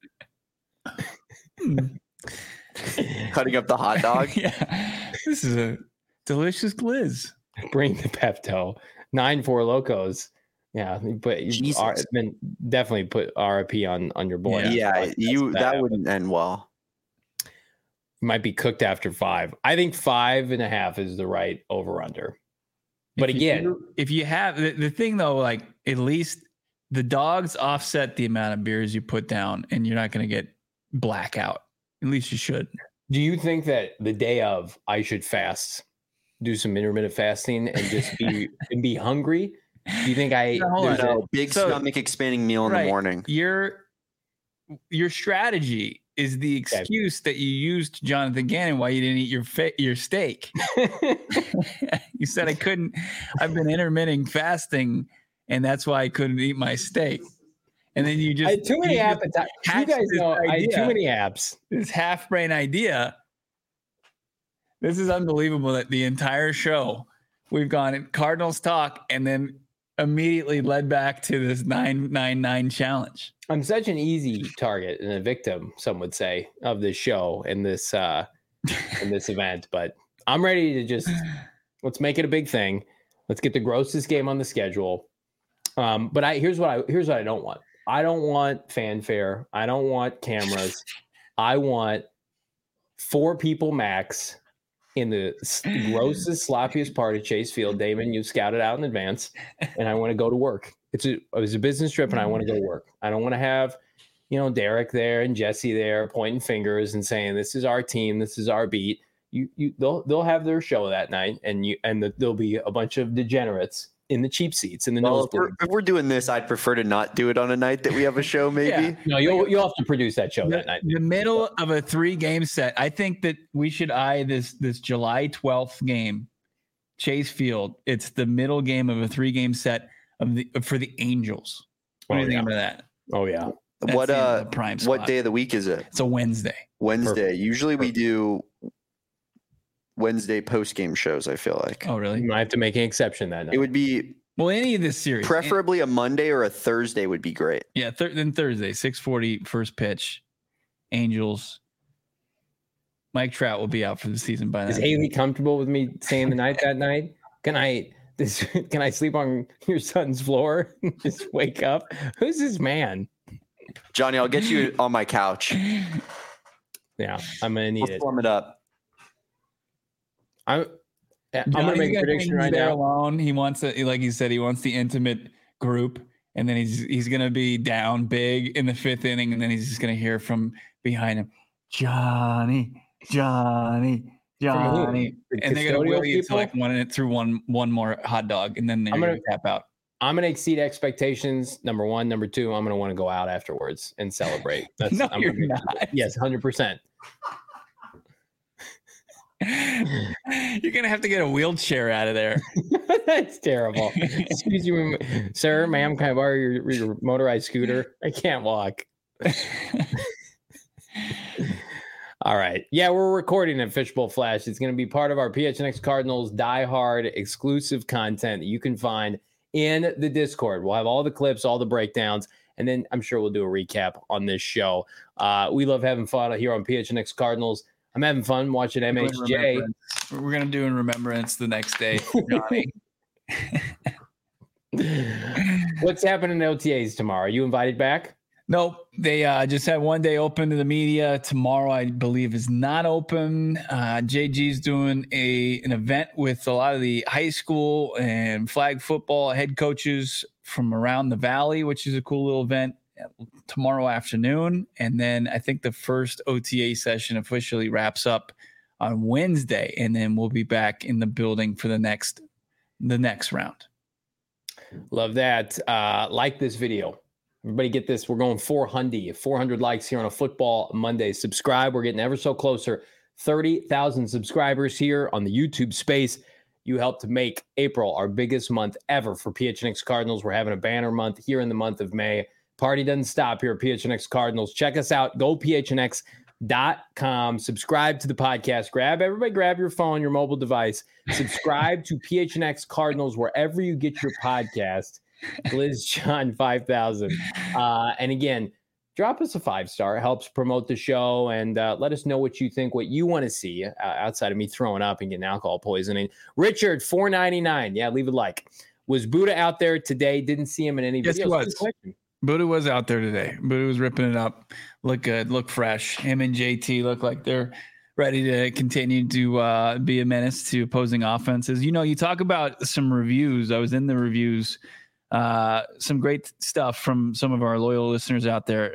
Cutting up the hot dog. Yeah. This is a delicious glizz. Bring the Pepto. 9 Four Locos. Yeah, but definitely put RIP on your boy. Yeah, that wouldn't end well. Might be cooked after 5. I think 5.5 is the right over under. But if you have the thing though, at least the dogs offset the amount of beers you put down, and you're not going to get blackout. At least you should. Do you think that the day of I should fast, do some intermittent fasting, and just be hungry? Do you think big stomach expanding meal in the morning? Your strategy is the excuse that you used, Jonathan Gannon, why you didn't eat your steak. You said I've been intermittent fasting, and that's why I couldn't eat my steak. And then you just I had too many appetites. You guys know I had too many apps. This half brain idea. This is unbelievable that the entire show we've gone Cardinals talk and then immediately led back to this 999 challenge. I'm such an easy target and a victim, some would say, of this show and this event. But I'm ready to let's make it a big thing. Let's get the grossest game on the schedule. But here's what I don't want. I don't want fanfare. I don't want cameras. I want 4 people max in the grossest, sloppiest part of Chase Field. Damon, you scouted out in advance, and I want to go to work. It was a business trip, and I want to go to work. I don't want to have, Derek there and Jesse there pointing fingers and saying, "This is our team. This is our beat." They'll have their show that night, and there'll be a bunch of degenerates in the cheap seats in the Well, nosebleed. if we're doing this, I'd prefer to not do it on a night that we have a show. Maybe. Yeah. No, you'll have to produce that show that night. The middle of a 3-game set. I think that we should eye this July 12th game, Chase Field. It's the middle game of a 3-game set for the Angels. What do you think about that? Oh yeah. That's prime spot. What day of the week is it? It's a Wednesday. Wednesday. Perfect. Usually we do Wednesday post-game shows, I feel like. Oh, really? You might have to make an exception that night. It would be Any of this series. preferably a Monday or a Thursday would be great. Yeah, then Thursday, 6:40 first pitch. Angels. Mike Trout will be out for the season by then. Is Haley comfortable with me saying the night that night? Can I sleep on your son's floor? Just wake up. Who's this man? Johnny, I'll get you on my couch. Yeah, I'm gonna need We'll it. form it up. I'm gonna make a prediction right now. Alone. He wants like he said, he wants the intimate group, and then he's gonna be down big in the 5th inning, and then he's just gonna hear from behind him, Johnny. The And they're gonna custodial will you to people? like one more hot dog, and then they're I'm gonna gonna- tap out. I'm gonna exceed expectations. Number one, number two, I'm gonna want to go out afterwards and celebrate. That's No, I'm you're gonna- not. Yes, 100%. You're gonna have to get a wheelchair out of there. That's terrible. Excuse you, sir, ma'am. Can I borrow your motorized scooter? I can't walk. All right. Yeah, we're recording at Fishbowl Flash. It's going to be part of our PHNX Cardinals Die Hard exclusive content that you can find in the Discord. We'll have all the clips, all the breakdowns, and then I'm sure we'll do a recap on this show. We love having fun here on PHNX Cardinals. I'm having fun watching MHJ. We're gonna do in remembrance the next day, Johnny. What's happening in OTAs tomorrow? Are you invited back? Nope. They just had one day open to the media. Tomorrow, I believe, is not open. JG's doing an event with a lot of the high school and flag football head coaches from around the valley, which is a cool little event tomorrow afternoon. And then I think the first OTA session officially wraps up on Wednesday, and then we'll be back in the building for the next round. Love that. Like this video. Everybody get this. We're going 400 likes here on a Football Monday. Subscribe. We're getting ever so closer. 30,000 subscribers here on the YouTube space. You helped to make April our biggest month ever for PHNX Cardinals. We're having a banner month here in the month of May. Party doesn't stop here at PHNX Cardinals. Check us out. Go PHNX.com. Subscribe to the podcast. Everybody grab your phone, your mobile device. Subscribe to PHNX Cardinals wherever you get your podcast. Liz John 5000. And again, drop us a 5-star. It helps promote the show, and let us know what you think, what you want to see outside of me throwing up and getting alcohol poisoning. Richard 499. Yeah, leave a like. Was Buddha out there today? Didn't see him in any Yes, videos. he was. Buddha was out there today. Buddha was ripping it up. Look good, look fresh. Him and JT look like they're ready to continue to be a menace to opposing offenses. You know, you talk about some reviews. I was in the reviews. Some great stuff from some of our loyal listeners out there.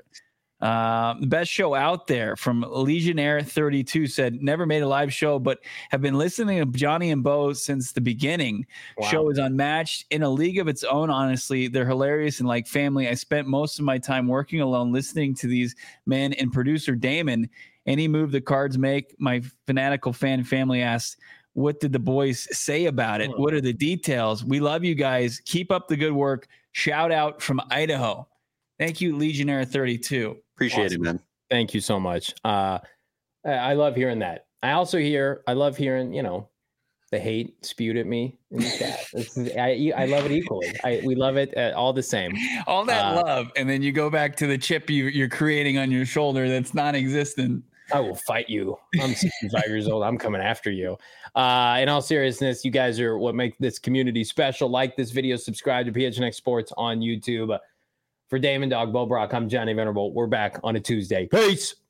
The best show out there from Legionnaire 32 said, never made a live show, but have been listening to Johnny and Bo since the beginning. Wow. Show is unmatched in a league of its own. Honestly, they're hilarious and like family. I spent most of my time working alone, listening to these men, and producer Damon. Any move the Cards make, my fanatical fan family asks, what did the boys say about it? What are the details? We love you guys. Keep up the good work. Shout out from Idaho. Thank you, Legionnaire 32. Appreciate it, man. Thank you so much. I love hearing that. I love hearing, the hate spewed at me in the chat. I love it equally. We love it all the same. All that love. And then you go back to the chip you're creating on your shoulder that's non-existent. I will fight you. I'm 65 years old. I'm coming after you. In all seriousness, you guys are what make this community special. Like this video, subscribe to PHNX Sports on YouTube. For Damon Dog, Bo Brock, I'm Johnny Venerable. We're back on a Tuesday. Peace.